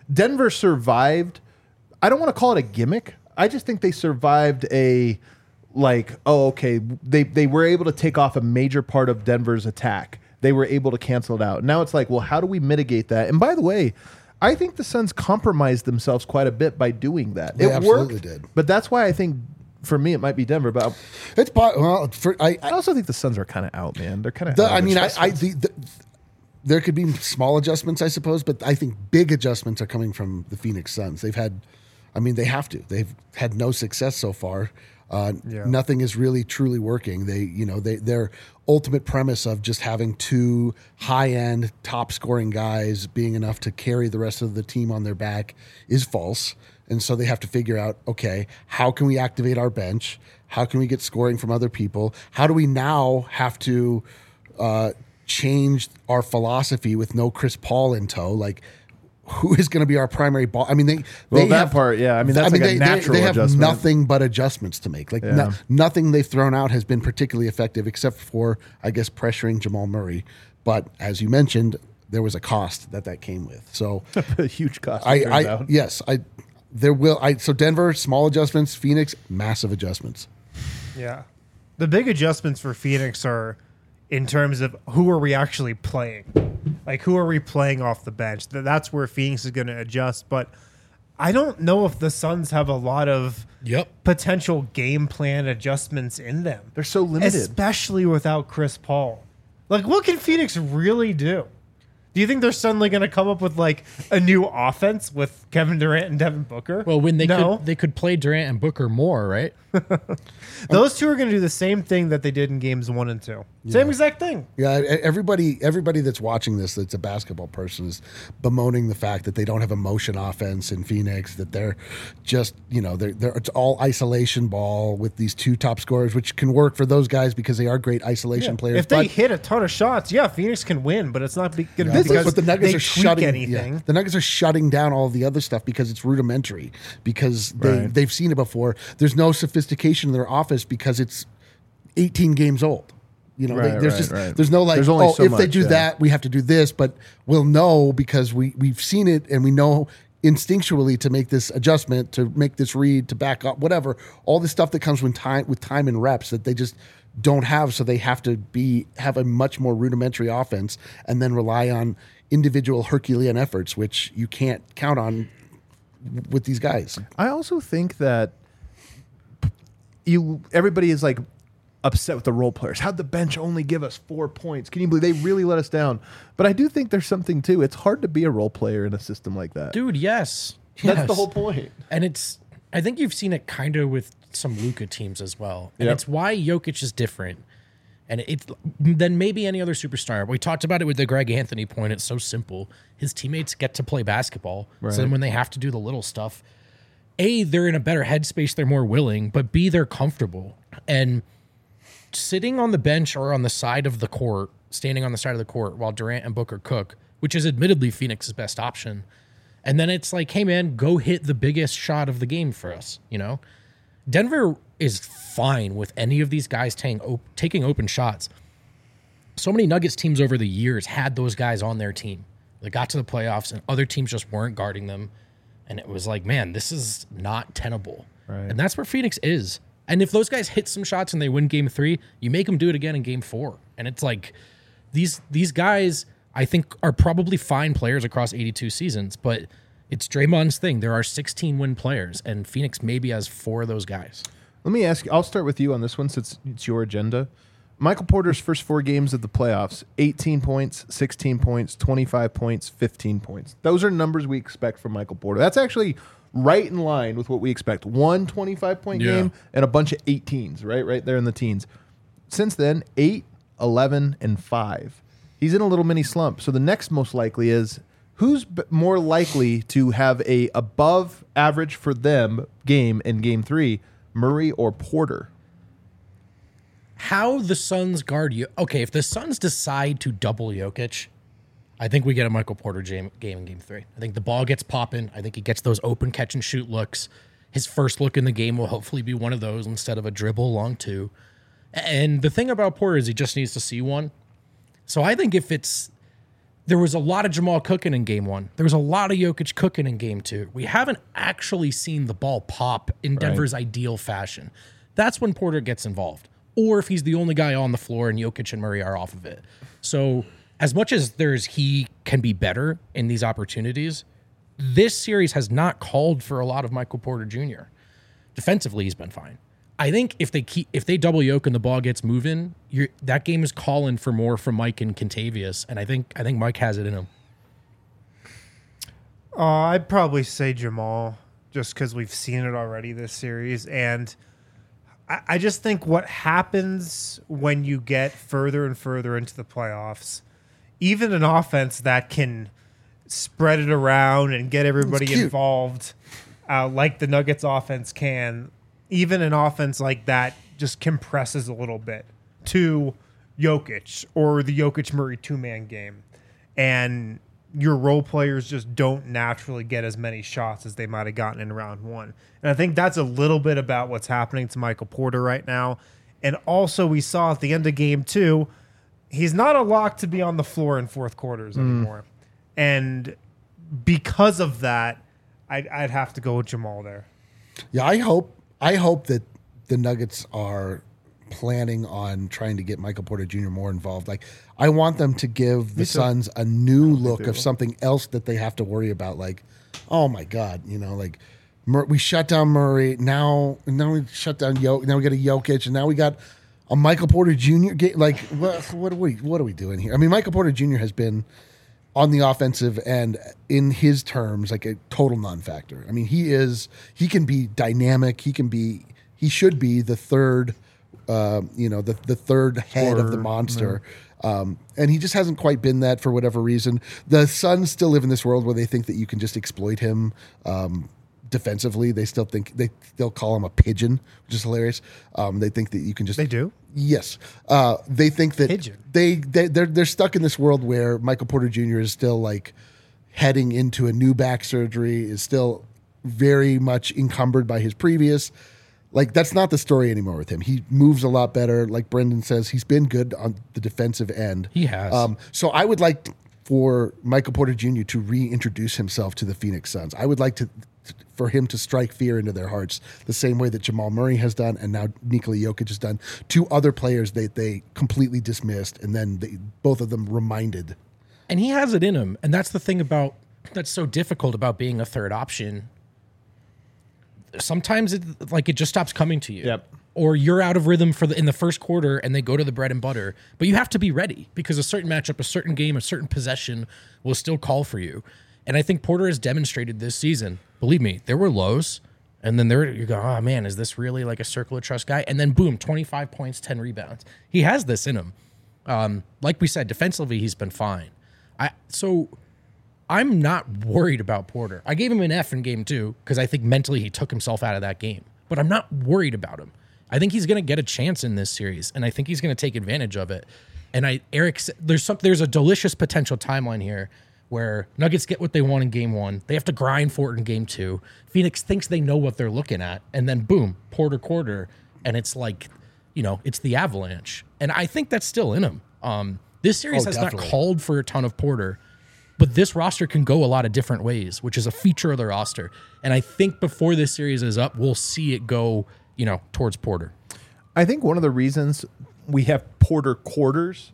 [SPEAKER 1] Denver survived. I don't want to call it a gimmick. I just think they survived a like, oh, okay, they they were able to take off a major part of Denver's attack. They were able to cancel it out. Now it's like, well, how do we mitigate that? And by the way, I think the Suns compromised themselves quite a bit by doing that.
[SPEAKER 3] They
[SPEAKER 1] it
[SPEAKER 3] absolutely
[SPEAKER 1] worked,
[SPEAKER 3] did.
[SPEAKER 1] but that's why I think for me it might be Denver. But
[SPEAKER 3] It's po- well, for, I,
[SPEAKER 1] I
[SPEAKER 3] I,
[SPEAKER 1] also think the Suns are kind of out, man. They're kind of.
[SPEAKER 3] the, I mean, I, I the, the, there could be small adjustments, I suppose, but I think big adjustments are coming from the Phoenix Suns. They've had, I mean, they have to. They've had no success so far. Uh,
[SPEAKER 4] Yeah.
[SPEAKER 3] Nothing is really truly working. They, you know, they their ultimate premise of just having two high-end, top-scoring guys being enough to carry the rest of the team on their back is false. And so they have to figure out, okay, how can we activate our bench? How can we get scoring from other people? How do we now have to uh, change our philosophy with no Chris Paul in tow? Like, who is going to be our primary ball? I mean, they
[SPEAKER 1] Well,
[SPEAKER 3] they
[SPEAKER 1] that
[SPEAKER 3] have,
[SPEAKER 1] part, yeah. I mean, that's like a
[SPEAKER 3] they,
[SPEAKER 1] natural
[SPEAKER 3] They, they have
[SPEAKER 1] adjustment.
[SPEAKER 3] nothing but adjustments to make. Like
[SPEAKER 1] Yeah.
[SPEAKER 3] no, nothing they've thrown out has been particularly effective, except for, I guess, pressuring Jamal Murray. But as you mentioned, there was a cost that that came with. So
[SPEAKER 1] a huge cost.
[SPEAKER 3] I,
[SPEAKER 1] it turns
[SPEAKER 3] I
[SPEAKER 1] out.
[SPEAKER 3] yes, I there will. I so Denver small adjustments, Phoenix massive adjustments.
[SPEAKER 4] Yeah. The big adjustments for Phoenix are in terms of who are we actually playing? Like, who are we playing off the bench? Th- That's where Phoenix is going to adjust. But I don't know if the Suns have a lot of
[SPEAKER 2] Yep.
[SPEAKER 4] potential game plan adjustments in them.
[SPEAKER 1] They're so limited.
[SPEAKER 4] Especially without Chris Paul. Like, what can Phoenix really do? Do you think they're suddenly going to come up with, like, a new offense with Kevin Durant and Devin Booker?
[SPEAKER 2] Well, when they
[SPEAKER 4] no.
[SPEAKER 2] could they could play Durant and Booker more, right?
[SPEAKER 4] Those two are going to do the same thing that they did in games one and two. Same exact thing.
[SPEAKER 3] Yeah, e- everybody everybody that's watching this that's a basketball person is bemoaning the fact that they don't have a motion offense in Phoenix, that they're just, you know, they're, they're it's all isolation ball with these two top scorers, which can work for those guys because they are great isolation players.
[SPEAKER 4] If they
[SPEAKER 3] but
[SPEAKER 4] hit a ton of shots, yeah, Phoenix can win, but it's not going to be
[SPEAKER 3] This is
[SPEAKER 4] because
[SPEAKER 3] what the Nuggets
[SPEAKER 4] they
[SPEAKER 3] are
[SPEAKER 4] tweak
[SPEAKER 3] shutting.
[SPEAKER 4] anything.
[SPEAKER 3] yeah, the Nuggets are shutting down all of the other stuff because it's rudimentary. Because they
[SPEAKER 1] Right.
[SPEAKER 3] they've seen it before. There's no sophistication in their offense because it's eighteen games old. You know, they,
[SPEAKER 1] Right,
[SPEAKER 3] there's
[SPEAKER 1] right,
[SPEAKER 3] just
[SPEAKER 1] right.
[SPEAKER 3] there's no like,
[SPEAKER 1] There's only
[SPEAKER 3] oh,
[SPEAKER 1] so
[SPEAKER 3] if they
[SPEAKER 1] much,
[SPEAKER 3] do
[SPEAKER 1] yeah.
[SPEAKER 3] that, we have to do this. But we'll know because we we've seen it and we know instinctually to make this adjustment, to make this read, to back up, whatever. All the stuff that comes with time with time and reps that they just don't have, so they have to be have a much more rudimentary offense and then rely on individual Herculean efforts, which you can't count on with these guys.
[SPEAKER 1] I also think that you everybody is like upset with the role players. How'd the bench only give us four points? Can you believe they really let us down? But I do think there's something too. It's hard to be a role player in a system like that.
[SPEAKER 2] Dude, yes.
[SPEAKER 1] That's
[SPEAKER 2] Yes.
[SPEAKER 1] the whole point.
[SPEAKER 2] And it's, I think you've seen it kind of with some Luka teams as well. And
[SPEAKER 1] Yep.
[SPEAKER 2] it's why Jokic is different. And it's than maybe any other superstar. We talked about it with the Greg Anthony point. It's so simple. His teammates get to play basketball.
[SPEAKER 1] Right.
[SPEAKER 2] So then when they have to do the little stuff, A, they're in a better headspace, they're more willing, but B, they're comfortable. And sitting on the bench or on the side of the court, standing on the side of the court while Durant and Booker cook, which is admittedly Phoenix's best option. And then it's like, hey man, go hit the biggest shot of the game for us, you know? Denver is fine with any of these guys taking op- taking open shots. So many Nuggets teams over the years had those guys on their team. They got to the playoffs and other teams just weren't guarding them. And it was like, man, this is not tenable.
[SPEAKER 1] Right.
[SPEAKER 2] And that's where Phoenix is. And if those guys hit some shots and they win game three, you make them do it again in game four. And it's like these these guys, I think, are probably fine players across eighty-two seasons, but it's Draymond's thing. There are sixteen win players, and Phoenix maybe has four of those guys.
[SPEAKER 1] Let me ask you, I'll start with you on this one since it's your agenda. Michael Porter's first four games of the playoffs, eighteen points, sixteen points, twenty-five points, fifteen points. Those are numbers we expect from Michael Porter. That's actually right in line with what we expect. One twenty-five-point
[SPEAKER 2] Yeah.
[SPEAKER 1] game and a bunch of eighteens, right? Right there in the teens. Since then, eight, eleven, and five. He's in a little mini slump. So the next most likely is who's b- more likely to have a above average for them game in game three, Murray or Porter?
[SPEAKER 2] How the Suns guard you? Okay, if the Suns decide to double Jokic, I think we get a Michael Porter jam, game in game three. I think the ball gets popping. I think he gets those open catch and shoot looks. His first look in the game will hopefully be one of those instead of a dribble long two. And the thing about Porter is he just needs to see one. So I think if it's there was a lot of Jamal cooking in game one. There was a lot of Jokic cooking in game two. We haven't actually seen the ball pop in Denver's right. ideal fashion. That's when Porter gets involved. Or if he's the only guy on the floor and Jokic and Murray are off of it. So as much as there's he can be better in these opportunities, this series has not called for a lot of Michael Porter Junior Defensively, he's been fine. I think if they keep if they double yoke and the ball gets moving, you're, that game is calling for more from Mike and Kentavious, and I think I think Mike has it in him.
[SPEAKER 4] Uh, I'd probably say Jamal, just because we've seen it already this series, and I, I just think what happens when you get further and further into the playoffs, even an offense that can spread it around and get everybody involved, uh, like the Nuggets offense can. Even an offense like that just compresses a little bit to Jokic or the Jokic-Murray two-man game. And your role players just don't naturally get as many shots as they might have gotten in round one. And I think that's a little bit about what's happening to Michael Porter right now. And also we saw at the end of game two, he's not a lock to be on the floor in fourth quarters mm. anymore. And because of that, I'd, I'd have to go with Jamal there.
[SPEAKER 3] Yeah, I hope I hope that the Nuggets are planning on trying to get Michael Porter Junior more involved. Like, I want them to give the Suns a new look of something else that they have to worry about. Like, oh my God, you know, like Mur- we shut down Murray. Now, now we shut down Jokic. Now we got a Jokic, and now we got a Michael Porter Junior Ga- like, what, what are we, what are we doing here? I mean, Michael Porter Junior has been on the offensive end, in his terms, like a total non-factor. I mean, he is, he can be dynamic. He can be, he should be the third, uh, you know, the, the third head of the monster. No. Um, and he just hasn't quite been that for whatever reason. The Suns still live in this world where they think that you can just exploit him um, defensively. They still think, they still call him a pigeon, which is hilarious. Um, they think that you can just...
[SPEAKER 4] They do?
[SPEAKER 3] Yes. Uh, they think that
[SPEAKER 4] Pigeon.
[SPEAKER 3] they, they, they're, they're stuck in this world where Michael Porter Junior is still like heading into a new back surgery, is still very much encumbered by his previous. Like, that's not the story anymore with him. He moves a lot better. Like Brendan says, he's been good on the defensive end.
[SPEAKER 2] He has.
[SPEAKER 3] Um, so I would like for Michael Porter Junior to reintroduce himself to the Phoenix Suns. I would like to for him to strike fear into their hearts the same way that Jamal Murray has done and now Nikola Jokic has done. Two other players they, they completely dismissed, and then they, both of them reminded.
[SPEAKER 2] And he has it in him. And that's the thing about that's so difficult about being a third option. Sometimes it like it just stops coming to you.
[SPEAKER 1] Yep.
[SPEAKER 2] Or you're out of rhythm for the in the first quarter and they go to the bread and butter. But you have to be ready because a certain matchup, a certain game, a certain possession will still call for you. And I think Porter has demonstrated this season. Believe me, there were lows, and then there you go, oh man, is this really like a circle of trust guy? And then boom, twenty-five points, ten rebounds. He has this in him. Um, like we said, defensively, he's been fine. I so I'm not worried about Porter. I gave him an F in game two because I think mentally he took himself out of that game. But I'm not worried about him. I think he's going to get a chance in this series, and I think he's going to take advantage of it. And I, Eric, there's some, there's a delicious potential timeline here where Nuggets get what they want in game one. They have to grind for it in game two. Phoenix thinks they know what they're looking at, and then boom, Porter quarter, and it's like, you know, it's the avalanche. And I think that's still in them. Um, this series
[SPEAKER 3] Oh,
[SPEAKER 2] has
[SPEAKER 3] definitely.
[SPEAKER 2] not called for a ton of Porter, but this roster can go a lot of different ways, which is a feature of the roster. And I think before this series is up, we'll see it go, you know, towards Porter.
[SPEAKER 1] I think one of the reasons we have Porter quarters,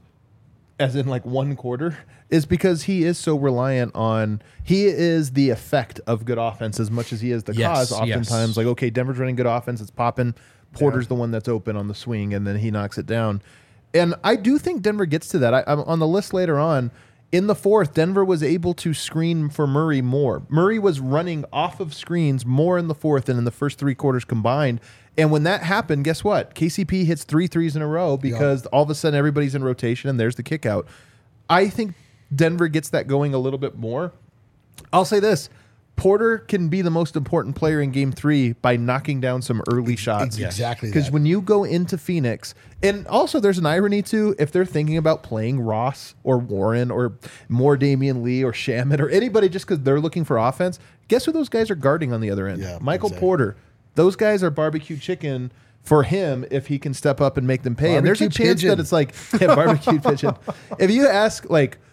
[SPEAKER 1] as in like one quarter, is because he is so reliant on, he is the effect of good offense as much as he is the
[SPEAKER 2] Yes,
[SPEAKER 1] cause. Oftentimes,
[SPEAKER 2] yes.
[SPEAKER 1] like, okay, Denver's running good offense, it's popping. Porter's the one that's open on the swing, and then he knocks it down. And I do think Denver gets to that. I, I'm on the list later on. In the fourth, Denver was able to screen for Murray more. Murray was running off of screens more in the fourth than in the first three quarters combined. And when that happened, guess what? K C P hits three threes in a row because all of a sudden everybody's in rotation and there's the kick out. I think Denver gets that going a little bit more. I'll say this. Porter can be the most important player in game three by knocking down some early shots.
[SPEAKER 3] It's exactly
[SPEAKER 1] Because
[SPEAKER 3] that.
[SPEAKER 1] when you go into Phoenix, and also there's an irony too, if they're thinking about playing Ross or Warren or more Damian Lee or Shamet or anybody just because they're looking for offense, guess who those guys are guarding on the other end?
[SPEAKER 3] Yeah,
[SPEAKER 1] Michael
[SPEAKER 3] exactly.
[SPEAKER 1] Porter. Those guys are barbecue chicken for him if he can step up and make them pay. And there's a
[SPEAKER 3] Barbecue
[SPEAKER 1] chance
[SPEAKER 3] pigeon.
[SPEAKER 1] that it's like, yeah, barbecue pigeon. If you ask like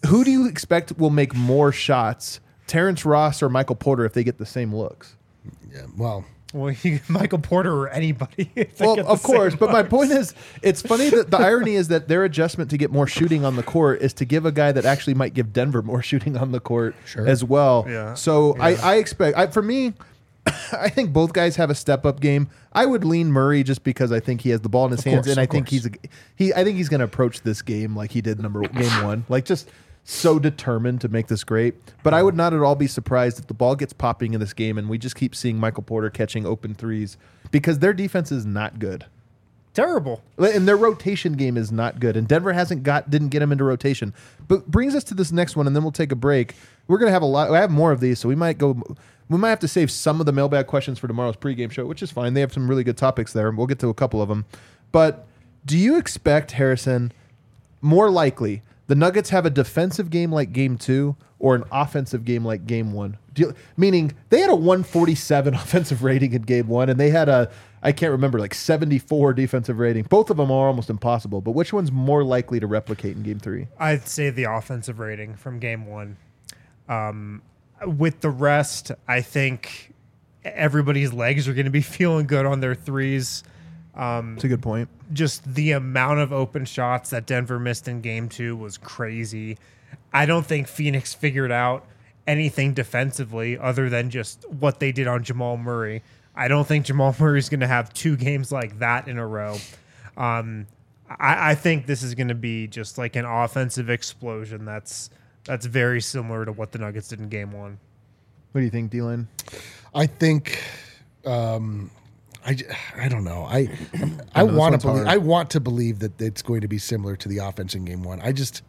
[SPEAKER 1] who do you expect will make more shots, Terrence Ross or Michael Porter, if they get the same looks?
[SPEAKER 3] Yeah, well,
[SPEAKER 4] Well, you, Michael Porter or anybody. if they
[SPEAKER 1] Well,
[SPEAKER 4] get the
[SPEAKER 1] of course,
[SPEAKER 4] same
[SPEAKER 1] but my
[SPEAKER 4] looks.
[SPEAKER 1] point is, it's funny that the irony is that their adjustment to get more shooting on the court is to give a guy that actually might give Denver more shooting on the court
[SPEAKER 2] Sure.
[SPEAKER 1] as well.
[SPEAKER 4] Yeah.
[SPEAKER 1] So I,
[SPEAKER 4] Yeah.
[SPEAKER 1] I expect, I, for me, I think both guys have a step up game. I would lean Murray just because I think he has the ball in his
[SPEAKER 2] Of
[SPEAKER 1] hands,
[SPEAKER 2] course,
[SPEAKER 1] and I
[SPEAKER 2] of
[SPEAKER 1] think
[SPEAKER 2] course.
[SPEAKER 1] he's a, he. I think he's going to approach this game like he did number game one, like just so determined to make this great. But I would not at all be surprised if the ball gets popping in this game and we just keep seeing Michael Porter catching open threes because their defense is not good.
[SPEAKER 4] Terrible.
[SPEAKER 1] And their rotation game is not good. And Denver hasn't got didn't get him into rotation. But brings us to this next one, and then we'll take a break. We're gonna have a lot. I have more of these, so we might go. We might have to save some of the mailbag questions for tomorrow's pregame show, which is fine. They have some really good topics there, and we'll get to a couple of them. But do you expect, Harrison, more likely the Nuggets have a defensive game like Game Two or an offensive game like Game One? Do you, meaning they had a one forty-seven offensive rating in Game One, and they had a I can't remember like seventy-four defensive rating. Both of them are almost impossible. But which one's more likely to replicate in Game Three?
[SPEAKER 4] I'd say the offensive rating from game one. Um, with the rest, I think everybody's legs are going to be feeling good on their threes. Um,
[SPEAKER 1] That's a good point.
[SPEAKER 4] just the amount of open shots that Denver missed in game two was crazy. I don't think Phoenix figured out anything defensively other than just what they did on Jamal Murray. I don't think Jamal Murray is going to have two games like that in a row. Um, I, I think this is going to be just like an offensive explosion that's that's very similar to what the Nuggets did in game one.
[SPEAKER 1] What do you think, D-Line?
[SPEAKER 3] I think um, I, j- I don't know. I I,
[SPEAKER 1] I know, this
[SPEAKER 3] want
[SPEAKER 1] one's
[SPEAKER 3] to believe
[SPEAKER 1] hard.
[SPEAKER 3] I want to believe that it's going to be similar to the offense in game one. I just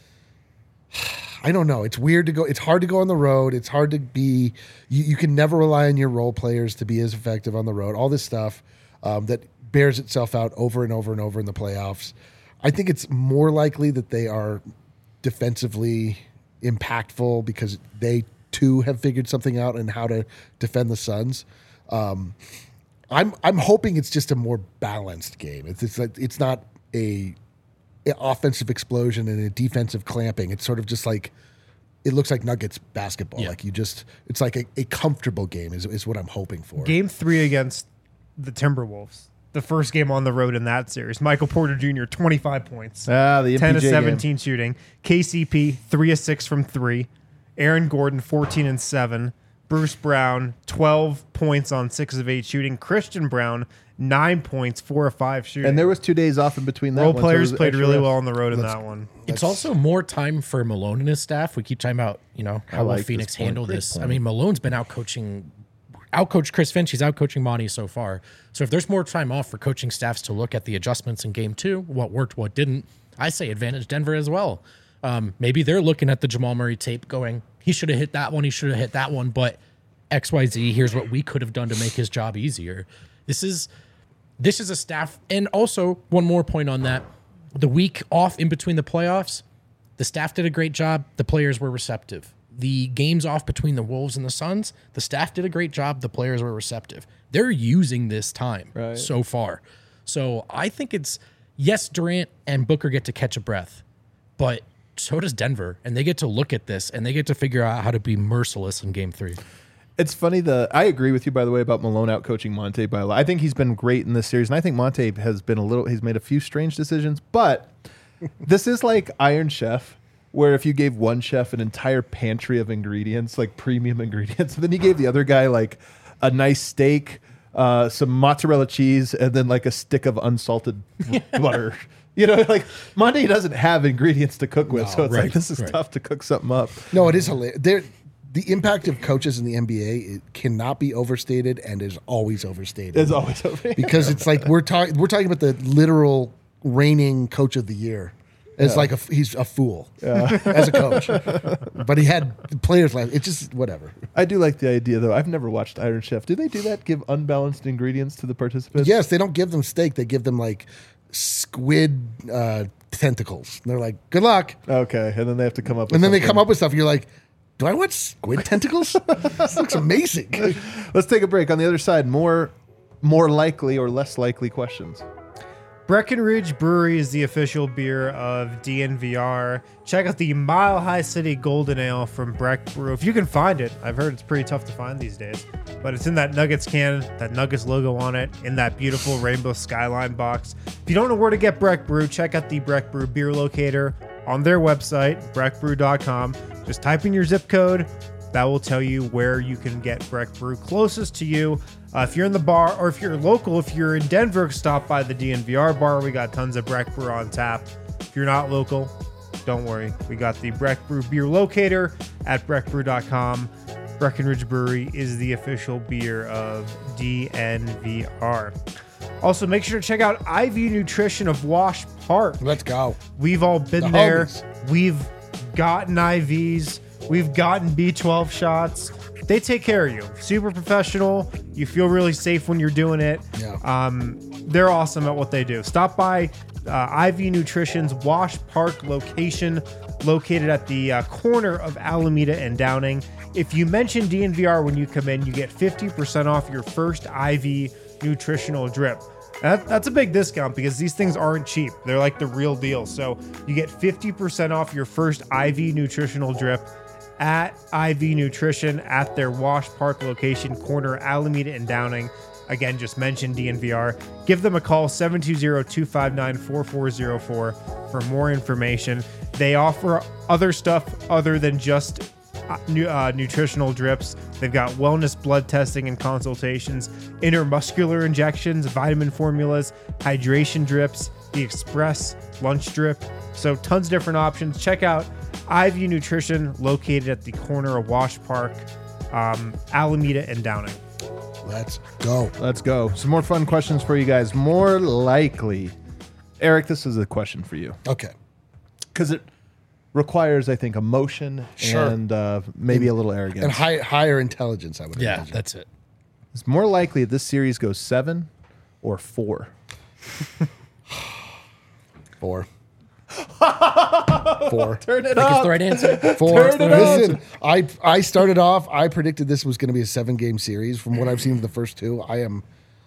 [SPEAKER 3] I don't know. It's weird to go. It's hard to go on the road. It's hard to be. You, you can never rely on your role players to be as effective on the road. All this stuff um, that bears itself out over and over and over in the playoffs. I think it's more likely that they are defensively impactful because they too have figured something out and how to defend the Suns. Um, I'm I'm hoping it's just a more balanced game. It's it's like, it's not a, a offensive explosion and a defensive clamping. It's sort of just like it looks like Nuggets basketball.
[SPEAKER 2] Yeah.
[SPEAKER 3] Like you just it's like a, a comfortable game is is what I'm hoping for.
[SPEAKER 4] Game three against the Timberwolves, the first game on the road in that series. Michael Porter Junior, twenty-five points.
[SPEAKER 1] Ah, the M P J
[SPEAKER 4] ten to
[SPEAKER 1] game.
[SPEAKER 4] seventeen shooting. K C P, three of six from three. Aaron Gordon, fourteen and seven. Bruce Brown, twelve points on six of eight shooting. Christian Brown, nine points, four of five shooting.
[SPEAKER 1] And there was two days off in between that
[SPEAKER 4] Role
[SPEAKER 1] one, so it
[SPEAKER 4] players
[SPEAKER 1] was
[SPEAKER 4] played
[SPEAKER 1] extra
[SPEAKER 4] really
[SPEAKER 1] rest.
[SPEAKER 4] well on the road in that one.
[SPEAKER 2] It's also more time for Malone and his staff. We keep talking about, you know, how will
[SPEAKER 1] like this
[SPEAKER 2] Phoenix
[SPEAKER 1] point.
[SPEAKER 2] handle
[SPEAKER 1] Great
[SPEAKER 2] this. I
[SPEAKER 1] point.
[SPEAKER 2] mean, Malone's been out coaching, out coached Chris Finch. He's out coaching Monty so far. So if there's more time off for coaching staffs to look at the adjustments in game two, what worked, what didn't, I say advantage Denver as well. Um, maybe they're looking at the Jamal Murray tape going, he should have hit that one, he should have hit that one, but X Y Z, here's what we could have done to make his job easier. This is this is a staff, and also one more point on that. The week off in between the playoffs, the staff did a great job. The players were receptive. The games off between the Wolves and the Suns, the staff did a great job. The players were receptive. They're using this time
[SPEAKER 1] Right.
[SPEAKER 2] so far. So I think it's, yes, Durant and Booker get to catch a breath, but so does Denver. And they get to look at this and they get to figure out how to be merciless in game three.
[SPEAKER 1] It's funny. The I agree with you, by the way, about Malone out coaching Monte by a lot. I think he's been great in this series, and I think Monte has been a little. He's made a few strange decisions, but this is like Iron Chef, where if you gave one chef an entire pantry of ingredients, like premium ingredients, and then you gave the other guy like a nice steak, uh, some mozzarella cheese, and then like a stick of unsalted butter. You know, like Monte doesn't have ingredients to cook with,
[SPEAKER 2] No,
[SPEAKER 1] so it's
[SPEAKER 2] right,
[SPEAKER 1] like this is
[SPEAKER 2] right.
[SPEAKER 1] tough to cook something up.
[SPEAKER 3] No, it is hilarious. There, the impact of coaches in the N B A it cannot be overstated and is always overstated.
[SPEAKER 1] It's always over.
[SPEAKER 3] because it's like we're talking we're talking about the literal reigning coach of the year. It's like a, f- he's a fool as a coach, but he had players like it's just whatever.
[SPEAKER 1] I do like the idea, though. I've never watched Iron Chef. Do they do that? Give unbalanced ingredients to the participants?
[SPEAKER 3] Yes, they don't give them steak; they give them like squid uh, tentacles. And they're like, "Good luck,"
[SPEAKER 1] Okay, and then they have to come up. with
[SPEAKER 3] and then they
[SPEAKER 1] something.
[SPEAKER 3] come up with stuff. You're like, "Do I want squid tentacles? This looks amazing."
[SPEAKER 1] Let's take a break. On the other side, more, more likely or less likely questions.
[SPEAKER 4] Breckenridge Brewery is the official beer of D N V R. Check out the Mile High City Golden Ale from Breck Brew. If you can find it, I've heard it's pretty tough to find these days. But it's in that Nuggets can, that Nuggets logo on it, in that beautiful rainbow skyline box. If you don't know where to get Breck Brew, check out the Breck Brew beer locator on their website, breck brew dot com. Just type in your zip code. That will tell you where you can get Breck Brew closest to you. Uh, if you're in the bar, or if you're local, if you're in Denver, stop by the D N V R bar. We got tons of Breck Brew on tap. If you're not local, don't worry. We got the Breck Brew beer locator at breck brew dot com. Breckenridge Brewery is the official beer of D N V R. Also, make sure to check out I V Nutrition of Wash Park.
[SPEAKER 3] Let's go.
[SPEAKER 4] We've all been
[SPEAKER 3] The
[SPEAKER 4] there.
[SPEAKER 3] homies.
[SPEAKER 4] We've gotten I Vs. We've gotten B twelve shots. They take care of you. Super professional. You feel really safe when you're doing it.
[SPEAKER 3] Yeah.
[SPEAKER 4] Um, they're awesome at what they do. Stop by uh, I V Nutrition's Wash Park location, located at the uh, corner of Alameda and Downing. If you mention D N V R when you come in, you get fifty percent off your first I V nutritional drip. That, that's a big discount because these things aren't cheap. They're like the real deal. So you get fifty percent off your first I V nutritional drip at I V Nutrition at their Wash Park location, corner Alameda and Downing. Again, just mention D N V R. Give them a call, seven two zero, two five nine, four four zero four for more information. They offer other stuff other than just uh, nu- uh, nutritional drips. They've got wellness blood testing and consultations, intermuscular injections, vitamin formulas, hydration drips, the express lunch drip. So tons of different options. Check out I V Nutrition, located at the corner of Wash Park, um, Alameda and Downing.
[SPEAKER 3] Let's go.
[SPEAKER 1] Let's go. Some more fun questions for you guys. More likely, Eric, this is a question for you
[SPEAKER 3] Okay.
[SPEAKER 1] because it requires, I think, emotion
[SPEAKER 3] Sure.
[SPEAKER 1] and uh, maybe a little arrogance.
[SPEAKER 3] And high, higher intelligence, I would
[SPEAKER 2] Yeah,
[SPEAKER 3] imagine.
[SPEAKER 2] that's it.
[SPEAKER 1] It's more likely this series goes seven or four.
[SPEAKER 3] Four. Four.
[SPEAKER 1] Turn it
[SPEAKER 2] I think it's
[SPEAKER 1] up.
[SPEAKER 2] the right answer.
[SPEAKER 3] Four.
[SPEAKER 1] Turn it up.
[SPEAKER 3] Listen, I I started off. I predicted this was going to be a seven game series. From what I've seen of the first two, I am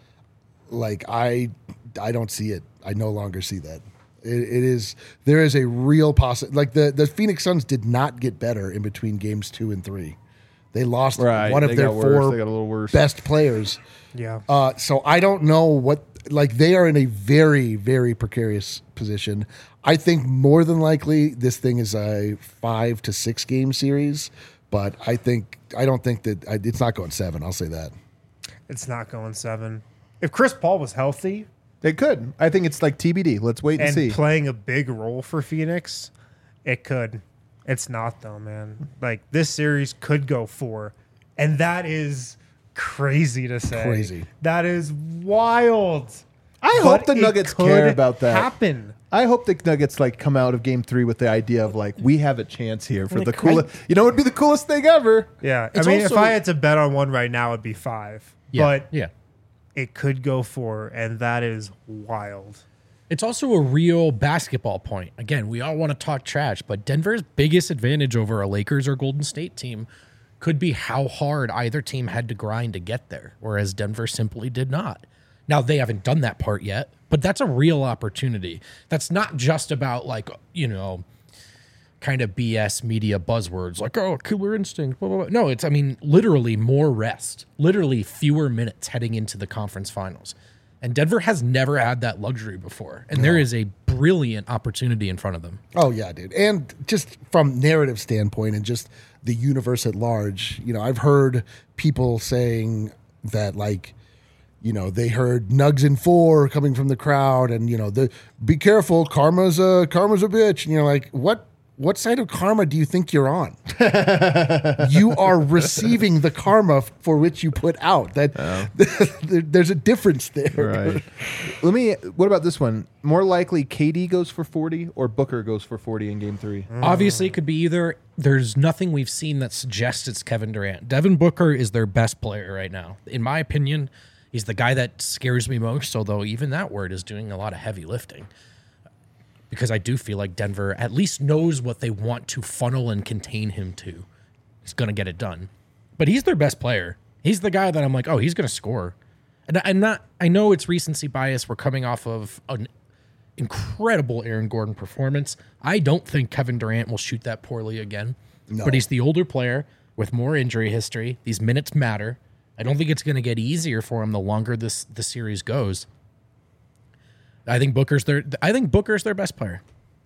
[SPEAKER 3] like I I don't see it. I no longer see that. It, it is there is a real possi Like the the Phoenix Suns did not get better in between games two and three. They lost
[SPEAKER 1] Right.
[SPEAKER 3] one of
[SPEAKER 1] They
[SPEAKER 3] their
[SPEAKER 1] got worse.
[SPEAKER 3] four
[SPEAKER 1] They got a little worse.
[SPEAKER 3] best players.
[SPEAKER 4] Yeah.
[SPEAKER 3] Uh, so I don't know what like they are in a very very precarious position. I think more than likely this thing is a five to six game series, but I think I don't think that I, it's not going seven. I'll say that.
[SPEAKER 4] It's not going seven. If Chris Paul was healthy
[SPEAKER 1] It could. I think it's like T B D. Let's wait and,
[SPEAKER 4] and
[SPEAKER 1] see.
[SPEAKER 4] playing a big role for Phoenix, it could. It's not though, man. Like this series could go four, and that is crazy to say.
[SPEAKER 3] Crazy.
[SPEAKER 4] That is wild.
[SPEAKER 1] I
[SPEAKER 4] But
[SPEAKER 1] hope the
[SPEAKER 4] it
[SPEAKER 1] Nuggets
[SPEAKER 4] could
[SPEAKER 1] care about that.
[SPEAKER 4] Happen.
[SPEAKER 1] I hope the Nuggets like come out of Game Three with the idea of like we have a chance here for
[SPEAKER 2] And
[SPEAKER 1] the
[SPEAKER 2] it could-
[SPEAKER 1] coolest. You know, it'd be the coolest thing ever.
[SPEAKER 4] Yeah.
[SPEAKER 2] It's
[SPEAKER 4] I mean,
[SPEAKER 2] also-
[SPEAKER 4] if I had to bet on one right now, it'd be five.
[SPEAKER 2] Yeah,
[SPEAKER 4] But
[SPEAKER 2] yeah.
[SPEAKER 4] it could go four, and that is wild.
[SPEAKER 2] It's also a real basketball point. Again, we all want to talk trash, but Denver's biggest advantage over a Lakers or Golden State team could be how hard either team had to grind to get there, whereas Denver simply did not. Now, they haven't done that part yet, but that's a real opportunity. That's not just about, like, you know, kind of B S media buzzwords like, oh, killer instinct, blah, blah, blah. No, it's, I mean, literally more rest, literally fewer minutes heading into the conference finals. And Denver has never had that luxury before. And there is a brilliant opportunity in front of them.
[SPEAKER 3] Oh yeah, dude. And just from narrative standpoint and just the universe at large, you know, I've heard people saying that like, you know, they heard Nugs in four coming from the crowd and, you know, the be careful, karma's a karma's a bitch. And you're like, what what side of karma do you think you're on? You are receiving the karma for which you put out. That there- there's a difference there.
[SPEAKER 1] Right. Let me. What about this one? More likely, K D goes for forty or Booker goes for forty in Game Three.
[SPEAKER 2] Obviously, it could be either. There's nothing we've seen that suggests it's Kevin Durant. Devin Booker is their best player right now. In my opinion, he's the guy that scares me most, although even that word is doing a lot of heavy lifting. Because I do feel like Denver at least knows what they want to funnel and contain him to. He's going to get it done. But he's their best player. He's the guy that I'm like, oh, he's going to score. And I'm not, I know it's recency bias. We're coming off of an, incredible Aaron Gordon performance. I don't think Kevin Durant will shoot that poorly again.
[SPEAKER 3] No.
[SPEAKER 2] But he's the older player with more injury history. These minutes matter. I don't think it's going to get easier for him the longer this the series goes. I think Booker's their I think Booker's their best player.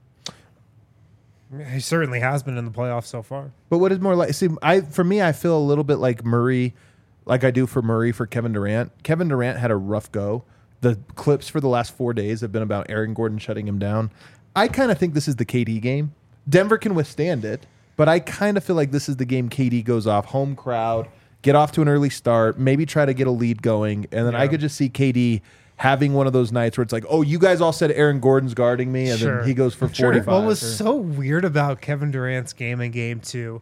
[SPEAKER 4] He certainly has been in the playoffs so far.
[SPEAKER 1] But what is more like? See, I for me, I feel a little bit like Murray, like I do for Murray for Kevin Durant. Kevin Durant had a rough go. The clips for the last four days have been about Aaron Gordon shutting him down. I kind of think this is the K D game. Denver can withstand it, but I kind of feel like this is the game K D goes off, home crowd, get off to an early start, maybe try to get a lead going, and then
[SPEAKER 4] Yeah.
[SPEAKER 1] I could just see K D having one of those nights where it's like, oh, you guys all said Aaron Gordon's guarding me, and
[SPEAKER 4] Sure.
[SPEAKER 1] then he goes for
[SPEAKER 2] Sure.
[SPEAKER 1] forty-five.
[SPEAKER 4] What was
[SPEAKER 1] or-
[SPEAKER 4] so weird about Kevin Durant's game in game two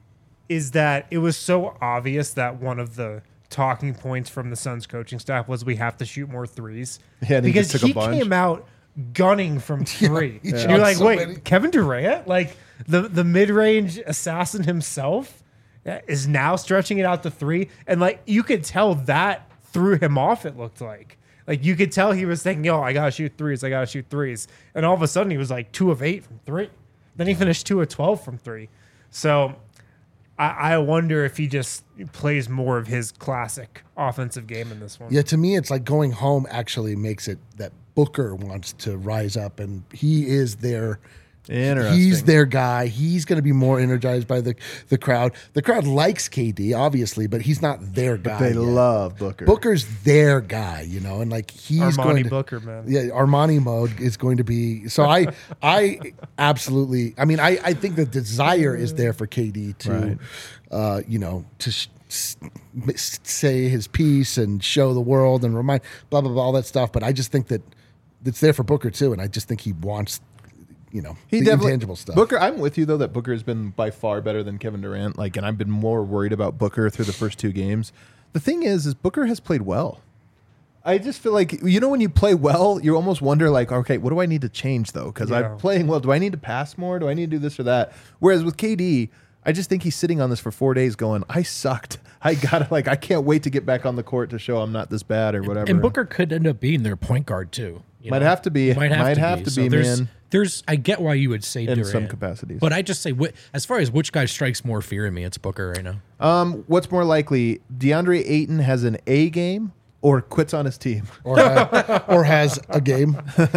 [SPEAKER 4] is that it was so obvious that one of the talking points from the Suns coaching staff was we have to shoot more threes.
[SPEAKER 1] Yeah, and he
[SPEAKER 4] because
[SPEAKER 1] just took a
[SPEAKER 4] he
[SPEAKER 1] bunch.
[SPEAKER 4] came out gunning from three.
[SPEAKER 3] he
[SPEAKER 4] And
[SPEAKER 3] shot
[SPEAKER 4] You're like,
[SPEAKER 3] so
[SPEAKER 4] wait,
[SPEAKER 3] many.
[SPEAKER 4] Kevin Durant? Like the, the mid-range assassin himself is now stretching it out to three. And like you could tell that threw him off, it looked like. Like you could tell he was thinking, yo, I gotta shoot threes, I gotta shoot threes. And all of a sudden he was like two of eight from three. Then he finished two of twelve from three. So I, I wonder if he just plays more of his classic offensive game in this one.
[SPEAKER 3] Yeah, to me, it's like going home actually makes it that Booker wants to rise up, and he is their.
[SPEAKER 1] Interesting.
[SPEAKER 3] He's their guy. He's going to be more energized by the the crowd. The crowd likes K D, obviously, but he's not their guy.
[SPEAKER 1] They
[SPEAKER 3] yet.
[SPEAKER 1] love Booker.
[SPEAKER 3] Booker's their guy, you know, and like he's
[SPEAKER 4] Armani
[SPEAKER 3] going to,
[SPEAKER 4] Booker, man.
[SPEAKER 3] Yeah, Armani mode is going to be. So I, I absolutely. I mean, I, I think the desire is there for K D to,
[SPEAKER 1] Right.
[SPEAKER 3] uh, you know, to sh- s- s- say his piece and show the world and remind blah blah blah all that stuff. But I just think that it's there for Booker too, and I just think he wants, you know,
[SPEAKER 1] He
[SPEAKER 3] the
[SPEAKER 1] definitely
[SPEAKER 3] intangible stuff.
[SPEAKER 1] Booker, I'm with you though that Booker has been by far better than Kevin Durant. Like, and I've been more worried about Booker through the first two games. The thing is, is Booker has played well. I just feel like, you know, when you play well, you almost wonder like, okay, what do I need to change though? Because
[SPEAKER 4] Yeah.
[SPEAKER 1] I'm playing well. Do I need to pass more? Do I need to do this or that? Whereas with K D, I just think he's sitting on this for four days going, I sucked. I gotta like, I can't wait to get back on the court to show I'm not this bad or whatever.
[SPEAKER 2] And Booker could end up being their point guard too. you
[SPEAKER 1] Might
[SPEAKER 2] know?
[SPEAKER 1] have to be.
[SPEAKER 2] Might have
[SPEAKER 1] Might
[SPEAKER 2] to
[SPEAKER 1] have
[SPEAKER 2] be,
[SPEAKER 1] to
[SPEAKER 2] So
[SPEAKER 1] be,
[SPEAKER 2] there's,
[SPEAKER 1] man.
[SPEAKER 2] There's, I get why you would say
[SPEAKER 1] In
[SPEAKER 2] Durant,
[SPEAKER 1] some capacities.
[SPEAKER 2] but I just say, wh- as far as which guy strikes more fear in me, it's Booker right now.
[SPEAKER 1] Um, what's more likely, DeAndre Ayton has an A game or quits on his team?
[SPEAKER 3] or ha- or has a game.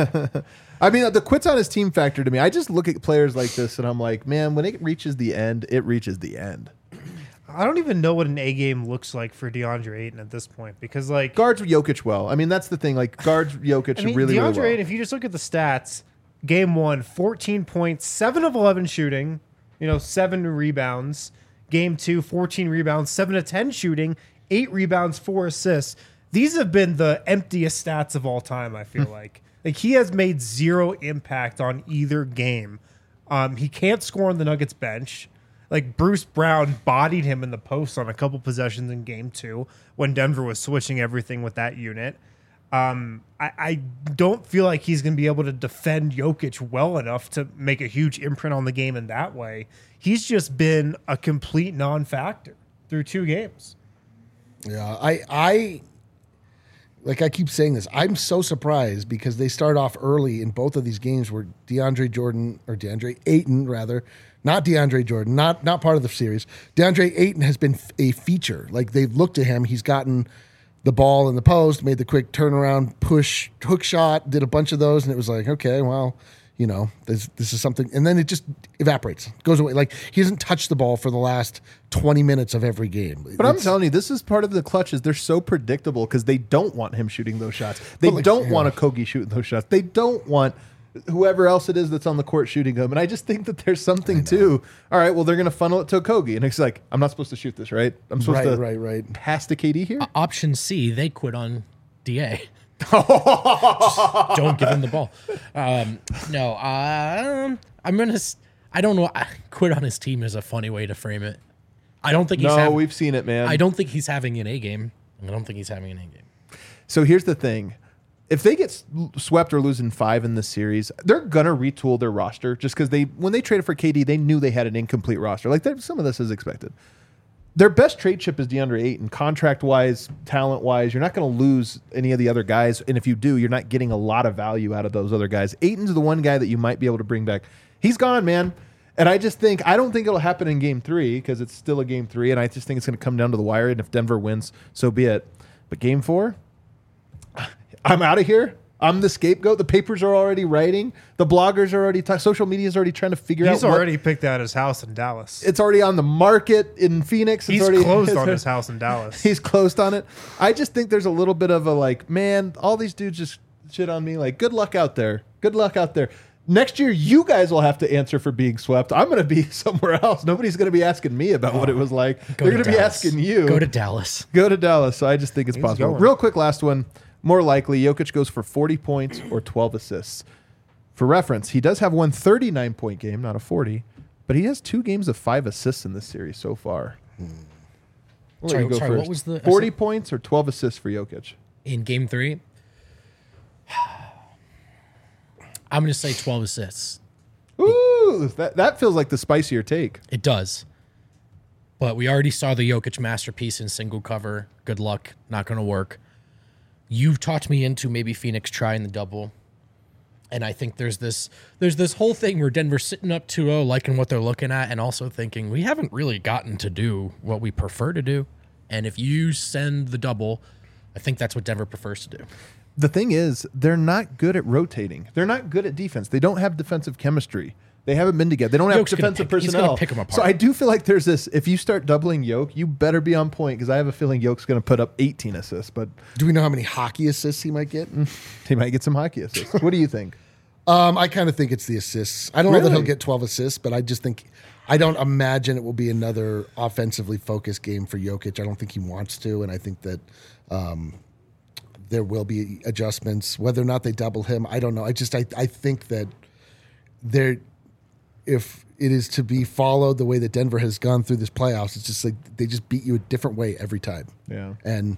[SPEAKER 1] I mean, the quits on his team factor to me, I just look at players like this and I'm like, man, when it reaches the end, it reaches the end.
[SPEAKER 4] I don't even know what an A game looks like for DeAndre Ayton at this point because, like,
[SPEAKER 1] Guards Jokic well. I mean, that's the thing. Like, guards Jokic
[SPEAKER 4] I mean,
[SPEAKER 1] really,
[SPEAKER 4] DeAndre
[SPEAKER 1] really well.
[SPEAKER 4] Ayton, if you just look at the stats, game one, fourteen points, seven of eleven shooting, you know, seven rebounds. Game two, fourteen rebounds, seven to ten shooting, eight rebounds, four assists. These have been the emptiest stats of all time, I feel like. Like, he has made zero impact on either game. Um, he can't score on the Nuggets bench. Like, Bruce Brown bodied him in the post on a couple possessions in game two when Denver was switching everything with that unit. Um, I, I don't feel like he's going to be able to defend Jokic well enough to make a huge imprint on the game in that way. He's just been a complete non-factor through two games.
[SPEAKER 3] Yeah, I, I, like I keep saying this, I'm so surprised because they start off early in both of these games where DeAndre Jordan or DeAndre Ayton rather, not DeAndre Jordan, not not part of the series. DeAndre Ayton has been f- a feature. Like they've looked at him, he's gotten the ball in the post, made the quick turnaround, push, hook shot, did a bunch of those, and it was like, okay, well, you know, this this is something, and then it just evaporates, goes away. Like he hasn't touched the ball for the last twenty minutes of every game.
[SPEAKER 1] But I'm
[SPEAKER 3] It's-
[SPEAKER 1] telling you, this is part of the clutches. They're so predictable because they don't want him shooting those shots. They
[SPEAKER 3] But like,
[SPEAKER 1] don't
[SPEAKER 3] yeah.
[SPEAKER 1] want a Kogi shooting those shots. They don't want whoever else it is that's on the court shooting them. And I just think that there's something too. All right, well, they're going to funnel it to a Kogi. And it's like, I'm not supposed to shoot this, right? I'm supposed
[SPEAKER 3] Right,
[SPEAKER 1] to
[SPEAKER 3] right, right.
[SPEAKER 1] pass to K D here?
[SPEAKER 2] Option C, they quit on D A. Just don't give him the ball. Um, no, um, I'm gonna. s- I don't know. I, quit on his team is a funny way to frame it. I don't think he's.
[SPEAKER 1] No,
[SPEAKER 2] having,
[SPEAKER 1] we've seen it, man.
[SPEAKER 2] I don't think he's having an A game. I don't think he's having an A game.
[SPEAKER 1] So here's the thing. If they get s- swept or lose in five in this series, they're gonna retool their roster just because they when they traded for K D, they knew they had an incomplete roster. Like there- some of this is expected. their best trade chip is DeAndre Ayton. Contract wise, talent wise, you're not going to lose any of the other guys. And if you do, you're not getting a lot of value out of those other guys. Ayton's the one guy that you might be able to bring back. He's gone, man. And I just think, I don't think it'll happen in game three because it's still a game three. And I just think it's going to come down to the wire. And if Denver wins, so be it. But game four, I'm out of here. I'm the scapegoat. The papers are already writing. The bloggers are already talking. Social media is already trying to figure
[SPEAKER 4] He's
[SPEAKER 1] out. He's
[SPEAKER 4] already picked out his house in Dallas.
[SPEAKER 1] It's already on the market in Phoenix. It's
[SPEAKER 4] He's
[SPEAKER 1] already,
[SPEAKER 4] closed on his house in Dallas.
[SPEAKER 1] He's closed on it. I just think there's a little bit of a like, man, all these dudes just shit on me. Like, good luck out there. Good luck out there. Next year, you guys will have to answer for being swept. I'm going to be somewhere else. Nobody's going to be asking me about what it was like.
[SPEAKER 2] Go
[SPEAKER 1] They're
[SPEAKER 2] to
[SPEAKER 1] going to be
[SPEAKER 2] Dallas.
[SPEAKER 1] asking you.
[SPEAKER 2] Go to Dallas.
[SPEAKER 1] Go to Dallas. So I just think it's
[SPEAKER 4] He's
[SPEAKER 1] possible.
[SPEAKER 4] going.
[SPEAKER 1] Real quick, last one. More likely, Jokic goes for forty points or twelve assists. For reference, he does have one thirty-nine point game, not a forty, but he has two games of five assists in this series so far. We'll let
[SPEAKER 2] Sorry,
[SPEAKER 1] you go
[SPEAKER 2] sorry, what
[SPEAKER 1] first.
[SPEAKER 2] was the-
[SPEAKER 1] forty points or twelve assists for Jokic?
[SPEAKER 2] In game three, I'm going to say twelve assists.
[SPEAKER 1] Ooh, that, that feels like the spicier take.
[SPEAKER 2] It does. But we already saw the Jokic masterpiece in single cover. Good luck. Not going to work. You've talked me into maybe Phoenix trying the double. And I think there's this there's this whole thing where Denver's sitting up two oh, liking what they're looking at, and also thinking, we haven't really gotten to do what we prefer to do. And if you send the double, I think that's what Denver prefers to do.
[SPEAKER 1] The thing is, they're not good at rotating. They're not good at defense. They don't have defensive chemistry. They haven't been together. They don't have
[SPEAKER 2] Yoke's gonna
[SPEAKER 1] defensive
[SPEAKER 2] pick- he's gonna
[SPEAKER 1] personnel.
[SPEAKER 2] pick 'em apart.
[SPEAKER 1] So I do feel like there's this. If you start doubling Yoke, you better be on point because I have a feeling Yoke's going to put up eighteen assists, but
[SPEAKER 3] Do we know how many hockey assists he might get?
[SPEAKER 1] he might get some hockey assists. What do you think?
[SPEAKER 3] Um, I kind of think it's the assists. I don't know that
[SPEAKER 1] Really?
[SPEAKER 3] he'll get twelve assists, but I just think I don't imagine it will be another offensively focused game for Jokic. I don't think he wants to, and I think that um, there will be adjustments. Whether or not they double him, I don't know. I just I, I think that there, if it is to be followed the way that Denver has gone through this playoffs, it's just like they just beat you a different way every time.
[SPEAKER 1] Yeah.
[SPEAKER 3] And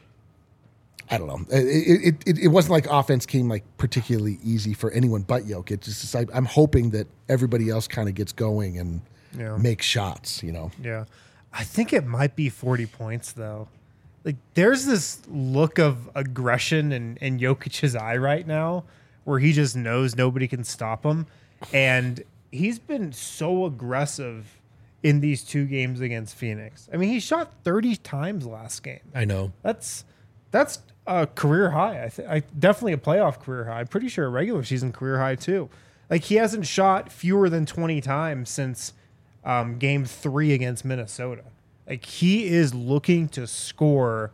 [SPEAKER 3] I don't know. It, it, it, it wasn't like offense came like particularly easy for anyone but Jokic. It's just I, I'm hoping that everybody else kind of gets going and
[SPEAKER 4] Yeah.
[SPEAKER 3] makes shots, you know.
[SPEAKER 4] Yeah. I think it might be forty points, though. Like, there's this look of aggression in, in Jokic's eye right now where he just knows nobody can stop him. And he's been so aggressive in these two games against Phoenix. I mean, he shot thirty times last game.
[SPEAKER 2] I know.
[SPEAKER 4] That's that's a career high. I, th- I definitely a playoff career high. I'm pretty sure a regular season career high too. Like, he hasn't shot fewer than twenty times since um, game three against Minnesota. Like, he is looking to score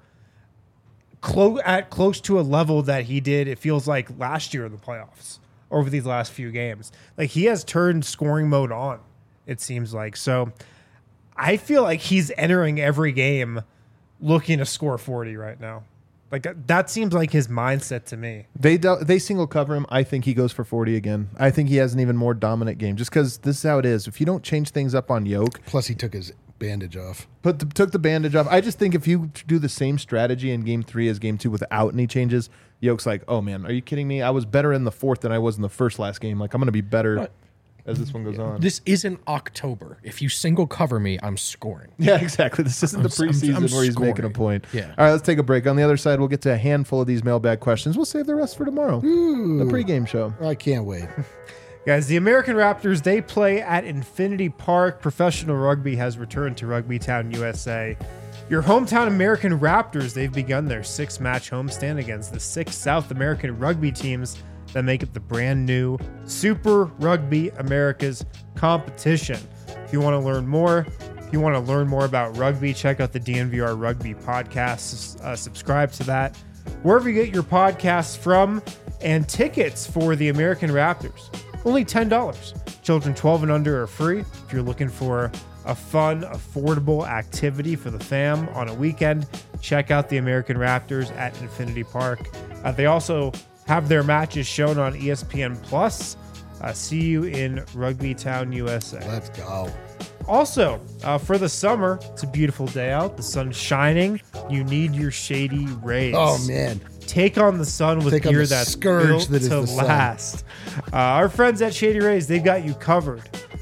[SPEAKER 4] close at close to a level that he did. It feels like last year in the playoffs over these last few games. Like, he has turned scoring mode on. It seems like so. I feel like he's entering every game looking to score forty right now. Like, that, that seems like his mindset to me.
[SPEAKER 1] They do, they single cover him. I think he goes for forty again. I think he has an even more dominant game just because this is how it is. If you don't change things up on Yoke,
[SPEAKER 3] Plus, he took his bandage off.
[SPEAKER 1] put the, took the bandage off. I just think if you do the same strategy in game three as game two without any changes, Yoke's like, oh man, are you kidding me? I was better in the fourth than I was in the first last game. Like, I'm going to be better
[SPEAKER 2] But-
[SPEAKER 1] as this one goes on.
[SPEAKER 2] This isn't October. If you single cover me, I'm scoring.
[SPEAKER 1] Yeah, exactly. This isn't the
[SPEAKER 2] I'm- I'm-
[SPEAKER 1] preseason
[SPEAKER 2] I'm
[SPEAKER 1] where he's making a
[SPEAKER 2] scoring.
[SPEAKER 1] point.
[SPEAKER 2] Yeah.
[SPEAKER 1] All right, let's take a break. On the other side, we'll get to a handful of these mailbag questions. We'll save the rest for tomorrow. The pregame show.
[SPEAKER 3] I can't wait.
[SPEAKER 4] Guys, the American Raptors, they play at Infinity Park. Professional rugby has returned to Rugby Town, U S A. Your hometown American Raptors, they've begun their six-match homestand against the six South American rugby teams that make up the brand new Super Rugby Americas competition. If you want to learn more, if you want to learn more about rugby, check out the D N V R Rugby podcast. Uh, subscribe to that wherever you get your podcasts from. And tickets for the American Raptors, only ten dollars. Children twelve and under are free. If you're looking for a fun, affordable activity for the fam on a weekend, check out the American Raptors at Infinity Park. Uh, they also have their matches shown on E S P N Plus. Uh, see you in Rugby Town, U S A.
[SPEAKER 3] Let's go.
[SPEAKER 4] Also, uh, for the summer, it's a beautiful day out. The sun's shining. You need your shady rays.
[SPEAKER 3] Oh, man.
[SPEAKER 4] Take on the sun with
[SPEAKER 3] Take on
[SPEAKER 4] gear
[SPEAKER 3] the
[SPEAKER 4] that's
[SPEAKER 3] scourge
[SPEAKER 4] built
[SPEAKER 3] that is
[SPEAKER 4] to
[SPEAKER 3] the sun.
[SPEAKER 4] last. Uh, our friends at Shady Rays, they've got you covered.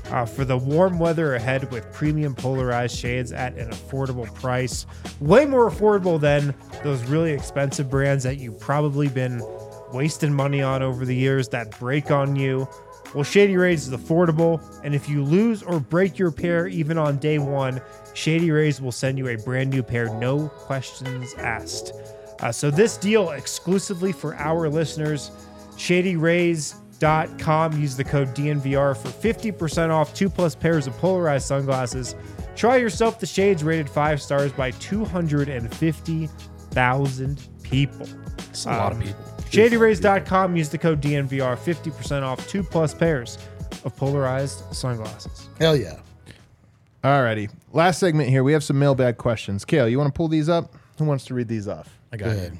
[SPEAKER 4] uh, for the warm weather ahead with premium polarized shades at an affordable price. Way more affordable than those really expensive brands that you've probably been wasting money on over the years that break on you. Well, Shady Rays is affordable, and if you lose or break your pair even on day one, Shady Rays will send you a brand new pair, no questions asked. Uh, so this deal exclusively for our listeners, shady rays dot com. Use the code D N V R for fifty percent off two plus pairs of polarized sunglasses. Try yourself the shades rated five stars by two hundred fifty thousand people.
[SPEAKER 2] That's a lot of people.
[SPEAKER 4] shady rays dot com. Use the code D N V R, fifty percent off two plus pairs of polarized sunglasses.
[SPEAKER 3] Hell yeah.
[SPEAKER 1] Alrighty. Last segment here. We have some mailbag questions. Kale, you want to pull these up? Who wants to read these off?
[SPEAKER 2] I got it.
[SPEAKER 3] Good.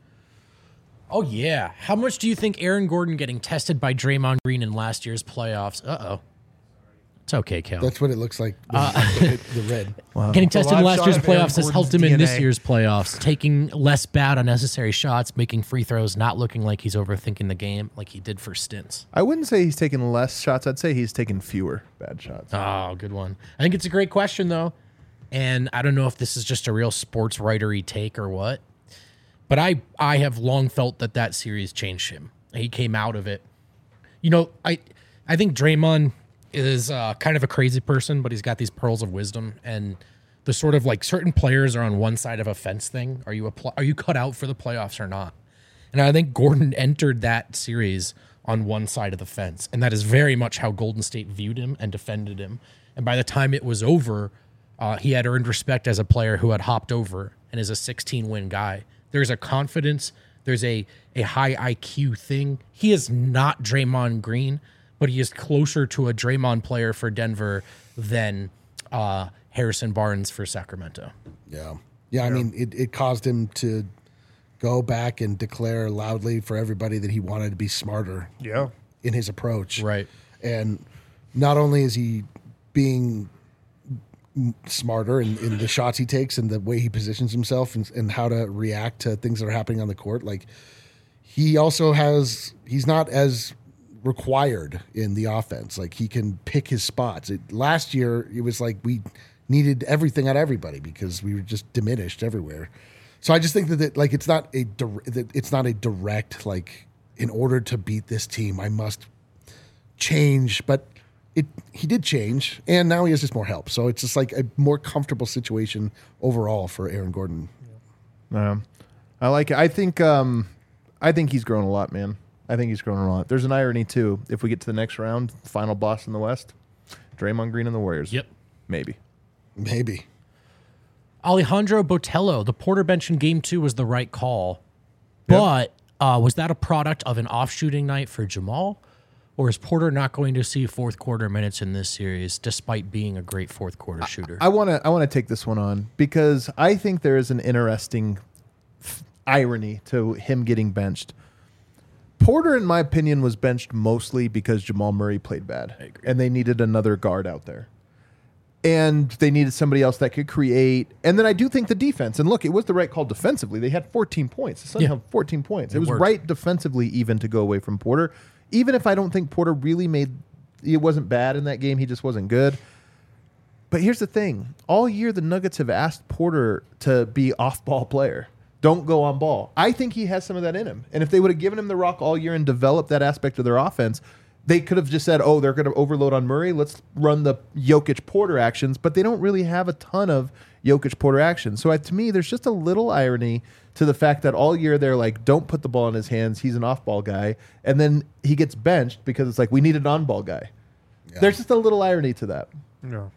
[SPEAKER 2] Oh, yeah. How much do you think Aaron Gordon getting tested by Draymond Green in last year's playoffs? Uh-oh. It's okay, Cal.
[SPEAKER 3] That's what it looks like. The, the red.
[SPEAKER 2] Getting tested in
[SPEAKER 4] live
[SPEAKER 2] last
[SPEAKER 4] shot
[SPEAKER 2] year's
[SPEAKER 4] of Aaron
[SPEAKER 2] playoffs has helped
[SPEAKER 4] Gordon's
[SPEAKER 2] him in
[SPEAKER 4] D N A.
[SPEAKER 2] this year's playoffs, taking less bad unnecessary shots, making free throws, not looking like he's overthinking the game like he did for stints.
[SPEAKER 1] I wouldn't say he's taking less shots. I'd say he's taking fewer bad shots.
[SPEAKER 2] Oh, good one. I think it's a great question, though. And I don't know if this is just a real sports writery take or what, but I, I have long felt that that series changed him. He came out of it. You know, I I think Draymond is uh, kind of a crazy person, but he's got these pearls of wisdom, and the sort of like certain players are on one side of a fence thing. Are you a pl- are you cut out for the playoffs or not? And I think Gordon entered that series on one side of the fence, and that is very much how Golden State viewed him and defended him. And by the time it was over, uh, he had earned respect as a player who had hopped over and is a sixteen win guy. There's a confidence. There's a a high I Q thing. He is not Draymond Green, but he is closer to a Draymond player for Denver than uh, Harrison Barnes for Sacramento.
[SPEAKER 3] Yeah. Yeah, I mean, it, it caused him to go back and declare loudly for everybody that he wanted to be smarter
[SPEAKER 4] Yeah.
[SPEAKER 3] in his approach.
[SPEAKER 2] Right.
[SPEAKER 3] And not only is he being m- smarter in, in the shots he takes and the way he positions himself and, and how to react to things that are happening on the court, like he also has, he's not as required in the offense. Like he can pick his spots. It, last year, it was like we needed everything out of everybody because we were just diminished everywhere. So I just think that, that like it's not a dir- that it's not a direct like in order to beat this team I must change, but it he did change and now he has just more help. So it's just like a more comfortable situation overall for Aaron Gordon.
[SPEAKER 1] Um, I like it. I think um, I think he's grown a lot, man. I think he's grown a lot. There's an irony too. If we get to the next round, final boss in the West, Draymond Green and the Warriors.
[SPEAKER 2] Yep.
[SPEAKER 1] Maybe.
[SPEAKER 3] Maybe.
[SPEAKER 2] Alejandro Botello, the Porter bench in game two was the right call, but uh, was that a product of an off shooting night for Jamal? Or is Porter not going to see fourth quarter minutes in this series, despite being a great fourth quarter shooter?
[SPEAKER 1] I want to I want to take this one on because I think there is an interesting f- irony to him getting benched. Porter, in my opinion, was benched mostly because Jamal Murray played bad, and they needed another guard out there. And they needed somebody else that could create. And then I do think the defense, and look, it was the right call defensively. They had fourteen points. The Suns
[SPEAKER 2] Yeah.
[SPEAKER 1] had fourteen points. It,
[SPEAKER 2] It
[SPEAKER 1] was
[SPEAKER 2] worked.
[SPEAKER 1] right defensively even to go away from Porter. Even if I don't think Porter really made, it wasn't bad in that game. He just wasn't good. But here's the thing. All year, the Nuggets have asked Porter to be off-ball player. Don't go on ball. I think he has some of that in him. And if they would have given him the rock all year and developed that aspect of their offense, they could have just said, oh, they're going to overload on Murray. Let's run the Jokic-Porter actions. But they don't really have a ton of Jokic-Porter actions. So uh, to me, there's just a little irony to the fact that all year they're like, don't put the ball in his hands. He's an off-ball guy. And then he gets benched because it's like, we need an on-ball guy.
[SPEAKER 3] Yeah.
[SPEAKER 1] There's just a little irony to that.
[SPEAKER 4] No.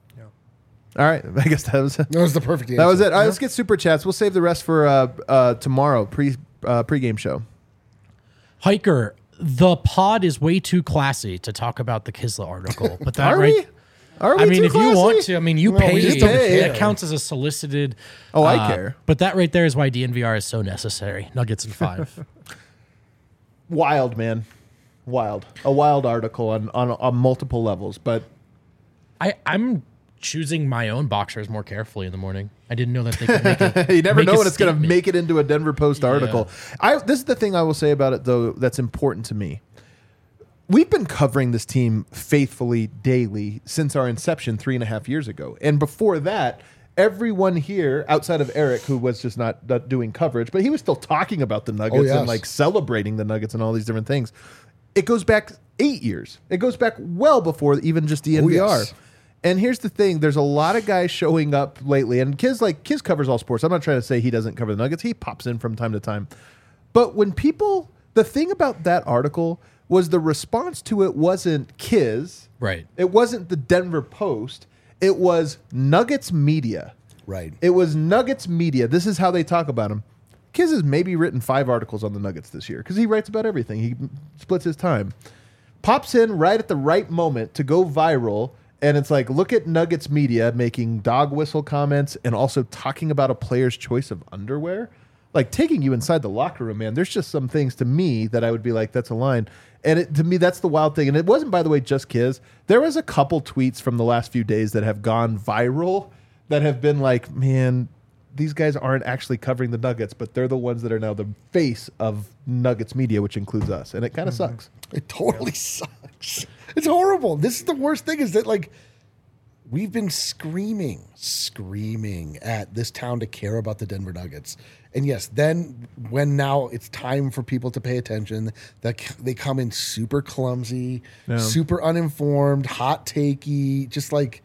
[SPEAKER 1] All right. I guess that was
[SPEAKER 3] That was the perfect answer.
[SPEAKER 1] that was it. All right, let's get super chats. We'll save the rest for uh, uh, tomorrow, pre uh, pregame show.
[SPEAKER 2] Hiker, the pod is way too classy to talk about the Kisla article. But that
[SPEAKER 1] Are
[SPEAKER 2] right,
[SPEAKER 1] we? Are we
[SPEAKER 2] I mean,
[SPEAKER 1] too
[SPEAKER 2] if you
[SPEAKER 1] classy?
[SPEAKER 2] want to, I mean, you
[SPEAKER 3] Well,
[SPEAKER 2] pay.
[SPEAKER 3] we just
[SPEAKER 1] don't
[SPEAKER 2] That
[SPEAKER 3] care.
[SPEAKER 2] counts as a solicited.
[SPEAKER 1] Oh, I
[SPEAKER 2] uh,
[SPEAKER 1] care.
[SPEAKER 2] But that right there is why D N V R is so necessary. Nuggets in five.
[SPEAKER 1] Wild, man. Wild. A wild article on, on, on multiple levels. But
[SPEAKER 2] I, I'm choosing my own boxers more carefully in the morning. I didn't know that they could make it.
[SPEAKER 1] you never
[SPEAKER 2] make
[SPEAKER 1] know
[SPEAKER 2] a
[SPEAKER 1] when it's going to
[SPEAKER 2] statement.
[SPEAKER 1] make it into a Denver Post article. I This is the thing I will say about it, though, that's important to me. we've been covering this team faithfully daily since our inception three and a half years ago. And before that, everyone here, outside of Eric, who was just not, not doing coverage, but he was still talking about the Nuggets
[SPEAKER 3] Oh, yes.
[SPEAKER 1] and like celebrating the Nuggets and all these different things. It goes back eight years. It goes back well before even just the N V R.
[SPEAKER 3] Oh, yes.
[SPEAKER 1] And here's the thing: there's a lot of guys showing up lately, and Kiz like Kiz covers all sports. I'm not trying to say he doesn't cover the Nuggets. He pops in from time to time. But when people, the thing about that article was the response to it wasn't Kiz,
[SPEAKER 2] Right.
[SPEAKER 1] It wasn't the Denver Post. It was Nuggets media.
[SPEAKER 3] Right.
[SPEAKER 1] It was Nuggets media. This is how they talk about him. Kiz has maybe written five articles on the Nuggets this year because he writes about everything. He splits his time. Pops in right at the right moment to go viral. And it's like, look at Nuggets media making dog whistle comments and also talking about a player's choice of underwear. Like taking you inside the locker room, man. There's just some things to me that I would be like, that's a line. And it, to me, that's the wild thing. And it wasn't, by the way, just Kiz. There was a couple tweets from the last few days that have gone viral that have been like, man, these guys aren't actually covering the Nuggets, but they're the ones that are now the face of Nuggets media, which includes us. And it kind of
[SPEAKER 3] Mm-hmm.
[SPEAKER 1] sucks.
[SPEAKER 3] It totally sucks. It's horrible. This is the worst thing is that, like, we've been screaming, screaming at this town to care about the Denver Nuggets. And yes, then when now it's time for people to pay attention, that they come in super clumsy,
[SPEAKER 1] Yeah.
[SPEAKER 3] super uninformed, hot takey, just like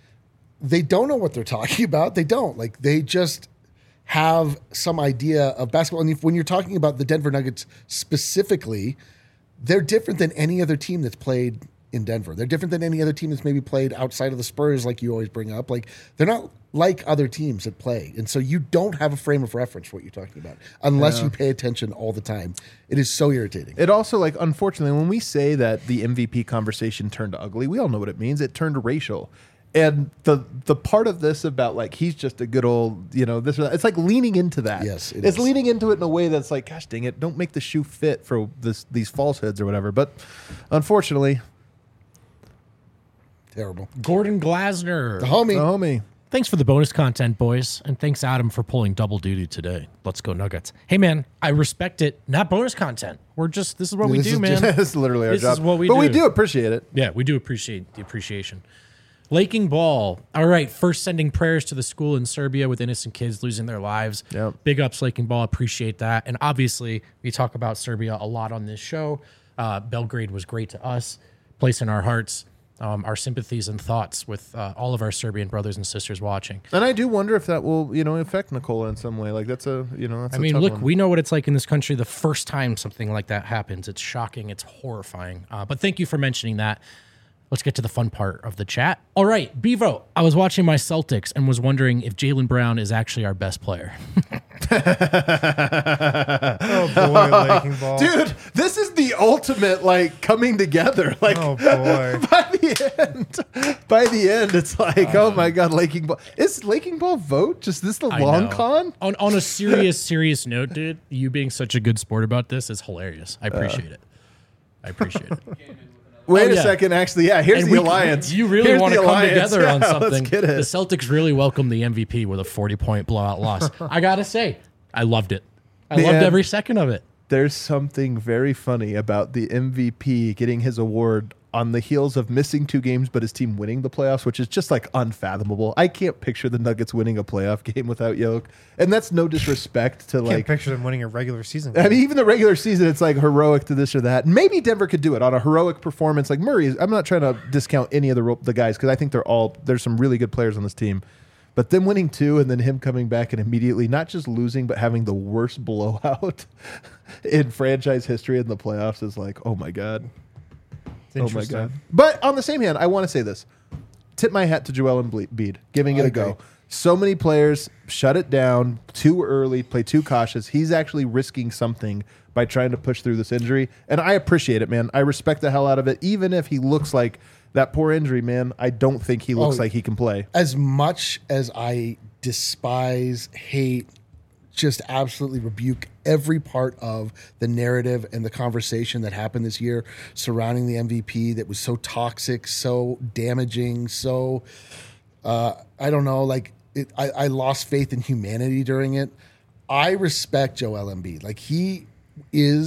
[SPEAKER 3] they don't know what they're talking about. They don't. Like they just have some idea of basketball. And if, when you're talking about the Denver Nuggets specifically, they're different than any other team that's played in Denver. They're different than any other team that's maybe played outside of the Spurs, like you always bring up. Like they're not like other teams that play. And so you don't have a frame of reference for what you're talking about unless
[SPEAKER 1] Yeah.
[SPEAKER 3] you pay attention all the time. It is so irritating.
[SPEAKER 1] It also, like, unfortunately, when we say that the M V P conversation turned ugly, we all know what it means. It turned racial. And the the part of this about, like, he's just a good old, you know, this or that, it's like leaning into that.
[SPEAKER 3] Yes, it
[SPEAKER 1] It's
[SPEAKER 3] is.
[SPEAKER 1] leaning into it in a way that's like, gosh dang it, don't make the shoe fit for this these falsehoods or whatever. But unfortunately,
[SPEAKER 3] Terrible.
[SPEAKER 2] Gordon Glasner.
[SPEAKER 3] The homie.
[SPEAKER 1] the homie.
[SPEAKER 2] Thanks for the bonus content, boys. And thanks, Adam, for pulling double duty today. Let's go Nuggets. Hey, man, I respect it. Not bonus content. We're just, this is what we
[SPEAKER 3] This
[SPEAKER 2] do,
[SPEAKER 3] is
[SPEAKER 2] man.
[SPEAKER 3] just-
[SPEAKER 1] This is literally our
[SPEAKER 2] This
[SPEAKER 1] job.
[SPEAKER 2] is what we
[SPEAKER 1] but we
[SPEAKER 2] do.
[SPEAKER 1] do appreciate it.
[SPEAKER 2] Yeah, we do appreciate the appreciation. Laking Ball. All right, first sending prayers to the school in Serbia with innocent kids losing their lives.
[SPEAKER 1] Yep.
[SPEAKER 2] Big ups, Laking Ball. Appreciate that. And obviously, we talk about Serbia a lot on this show. Uh, Belgrade was great to us. Place in our hearts, um, our sympathies and thoughts with uh, all of our Serbian brothers and sisters watching.
[SPEAKER 1] And I do wonder if that will, you know, affect Nicola in some way. Like that's a, you know, that's
[SPEAKER 2] I
[SPEAKER 1] a
[SPEAKER 2] mean,
[SPEAKER 1] tough
[SPEAKER 2] look,
[SPEAKER 1] one.
[SPEAKER 2] we know what it's like in this country the first time something like that happens. It's shocking. It's horrifying. Uh, but thank you for mentioning that. Let's get to the fun part of the chat. All right, Bevo, I was watching my Celtics and was wondering if Jaylen Brown is actually our best player.
[SPEAKER 4] Oh boy, Laking Ball.
[SPEAKER 1] Dude, this is the ultimate like coming together. Like
[SPEAKER 4] Oh boy.
[SPEAKER 1] by the end, by the end, it's like, oh my god, Laking Ball. Is Laking Ball vote? Just this the
[SPEAKER 2] I
[SPEAKER 1] long
[SPEAKER 2] know.
[SPEAKER 1] con?
[SPEAKER 2] On, on a serious, serious note, dude, you being such a good sport about this is hilarious. I appreciate it. I appreciate it.
[SPEAKER 1] Wait
[SPEAKER 2] Oh,
[SPEAKER 1] a
[SPEAKER 2] yeah.
[SPEAKER 1] second, actually, yeah. Here's
[SPEAKER 2] And
[SPEAKER 1] the
[SPEAKER 2] we-
[SPEAKER 1] alliance.
[SPEAKER 2] You really
[SPEAKER 1] Here's
[SPEAKER 2] want
[SPEAKER 1] the
[SPEAKER 2] to come
[SPEAKER 1] alliance.
[SPEAKER 2] together on
[SPEAKER 1] Yeah,
[SPEAKER 2] something.
[SPEAKER 1] Let's get
[SPEAKER 2] The
[SPEAKER 1] it.
[SPEAKER 2] Celtics really welcomed the M V P with a forty-point blowout loss. I gotta say, I loved it. I
[SPEAKER 1] Man.
[SPEAKER 2] loved every second of it.
[SPEAKER 1] There's something very funny about the M V P getting his award on the heels of missing two games, but his team winning the playoffs, which is just like unfathomable. I can't picture the Nuggets winning a playoff game without Yoke, and that's no disrespect to
[SPEAKER 4] Can't
[SPEAKER 1] like.
[SPEAKER 4] picture them winning a regular season.
[SPEAKER 1] I mean, even the regular season, it's like heroic to this or that. Maybe Denver could do it on a heroic performance. Like Murray, is, I'm not trying to discount any of the ro- the guys because I think they're all there's some really good players on this team. But them winning two and then him coming back and immediately not just losing but having the worst blowout in franchise history in the playoffs is like, oh my god,
[SPEAKER 4] It's
[SPEAKER 1] oh my
[SPEAKER 4] interesting.
[SPEAKER 1] god. But on the same hand, I want to say this: tip my hat to Joel Embiid, giving it
[SPEAKER 3] I
[SPEAKER 1] a go.
[SPEAKER 3] agree.
[SPEAKER 1] So many players shut it down too early, play too cautious. He's actually risking something by trying to push through this injury. And I appreciate it, man. I respect the hell out of it. Even if he looks like that poor injury, man, I don't think he looks
[SPEAKER 3] Oh,
[SPEAKER 1] like he can play.
[SPEAKER 3] As much as I despise, hate, just absolutely rebuke every part of the narrative and the conversation that happened this year surrounding the M V P that was so toxic, so damaging, so uh, I don't know, like it, I, I lost faith in humanity during it. I respect Joel Embiid. Like he is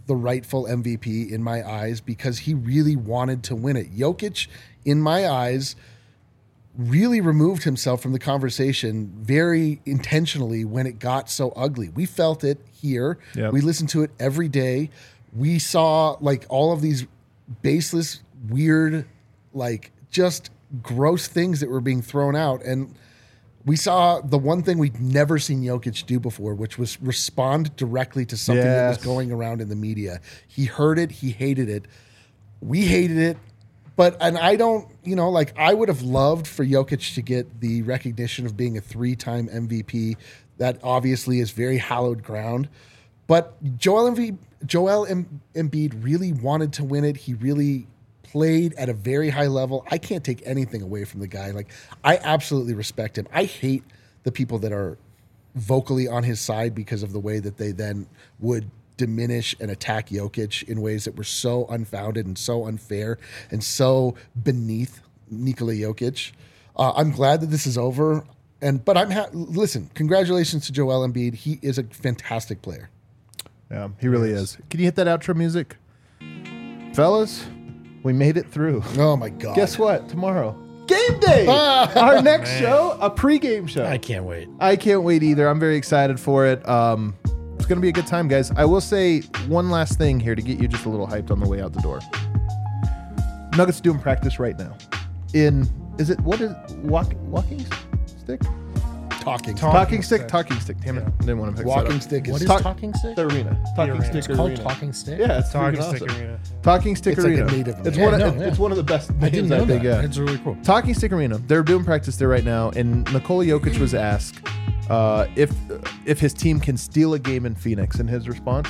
[SPEAKER 3] the rightful M V P in my eyes because he really wanted to win it. Jokic, in my eyes, really removed himself from the conversation very intentionally when it got so ugly. We felt it here.
[SPEAKER 1] Yep.
[SPEAKER 3] We listened to it every day. We saw like all of these baseless, weird, like just gross things that were being thrown out. And we saw the one thing we'd never seen Jokic do before, which was respond directly to something that was
[SPEAKER 1] Yes.
[SPEAKER 3] going around in the media. He heard it. He hated it. We hated it. But, and I don't, you know, like I would have loved for Jokic to get the recognition of being a three-time M V P. That obviously is very hallowed ground. But Joel Embiid, Joel Em- Embiid really wanted to win it. He really played at a very high level. I can't take anything away from the guy. Like, I absolutely respect him. I hate the people that are vocally on his side because of the way that they then would diminish and attack Jokic in ways that were so unfounded and so unfair and so beneath Nikola Jokic. Uh, I'm glad that this is over. And but I'm ha- listen. Congratulations to Joel Embiid. He is a fantastic player.
[SPEAKER 1] Yeah, he really is. Can you hit that outro music? Fellas, we made it through.
[SPEAKER 3] Oh my God!
[SPEAKER 1] Guess what? Tomorrow, game day. Our next show, a pregame show.
[SPEAKER 2] I can't wait.
[SPEAKER 1] I can't wait either. I'm very excited for it. Um, it's going to be a good time, guys. I will say one last thing here to get you just a little hyped on the way out the door. Nuggets doing practice right now. In, is it, what is, walk, walking stick?
[SPEAKER 3] Talking.
[SPEAKER 4] Talk-
[SPEAKER 1] Talking stick?
[SPEAKER 4] stick.
[SPEAKER 1] Talking stick. Damn it. Didn't want to pick
[SPEAKER 3] Walking
[SPEAKER 1] that up.
[SPEAKER 3] stick is
[SPEAKER 2] What is
[SPEAKER 1] Talk-
[SPEAKER 2] talking stick?
[SPEAKER 1] The arena. Talking
[SPEAKER 4] arena.
[SPEAKER 1] stick
[SPEAKER 2] It's called
[SPEAKER 1] arena.
[SPEAKER 2] talking stick.
[SPEAKER 1] Yeah, it's
[SPEAKER 4] Talking
[SPEAKER 1] freaking
[SPEAKER 4] Stick
[SPEAKER 1] awesome.
[SPEAKER 4] Arena.
[SPEAKER 1] Talking Stick
[SPEAKER 3] It's like a
[SPEAKER 1] Arena.
[SPEAKER 3] native
[SPEAKER 1] it's
[SPEAKER 3] name.
[SPEAKER 1] one.
[SPEAKER 2] Yeah,
[SPEAKER 1] of,
[SPEAKER 2] no,
[SPEAKER 1] it- It's
[SPEAKER 2] yeah.
[SPEAKER 1] one of the best
[SPEAKER 2] I
[SPEAKER 1] names
[SPEAKER 2] didn't know
[SPEAKER 1] I think.
[SPEAKER 2] that.
[SPEAKER 1] Yeah.
[SPEAKER 2] It's really cool.
[SPEAKER 1] Talking Stick Arena. They're doing practice there right now, and Nikola Jokic was asked uh, if if his team can steal a game in Phoenix, and his response: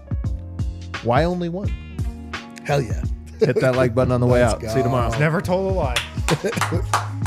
[SPEAKER 1] "Why only one?"
[SPEAKER 3] Hell yeah.
[SPEAKER 1] Hit that like button on the way
[SPEAKER 3] Let's
[SPEAKER 1] out.
[SPEAKER 3] go.
[SPEAKER 1] See you tomorrow.
[SPEAKER 4] Never told a lie.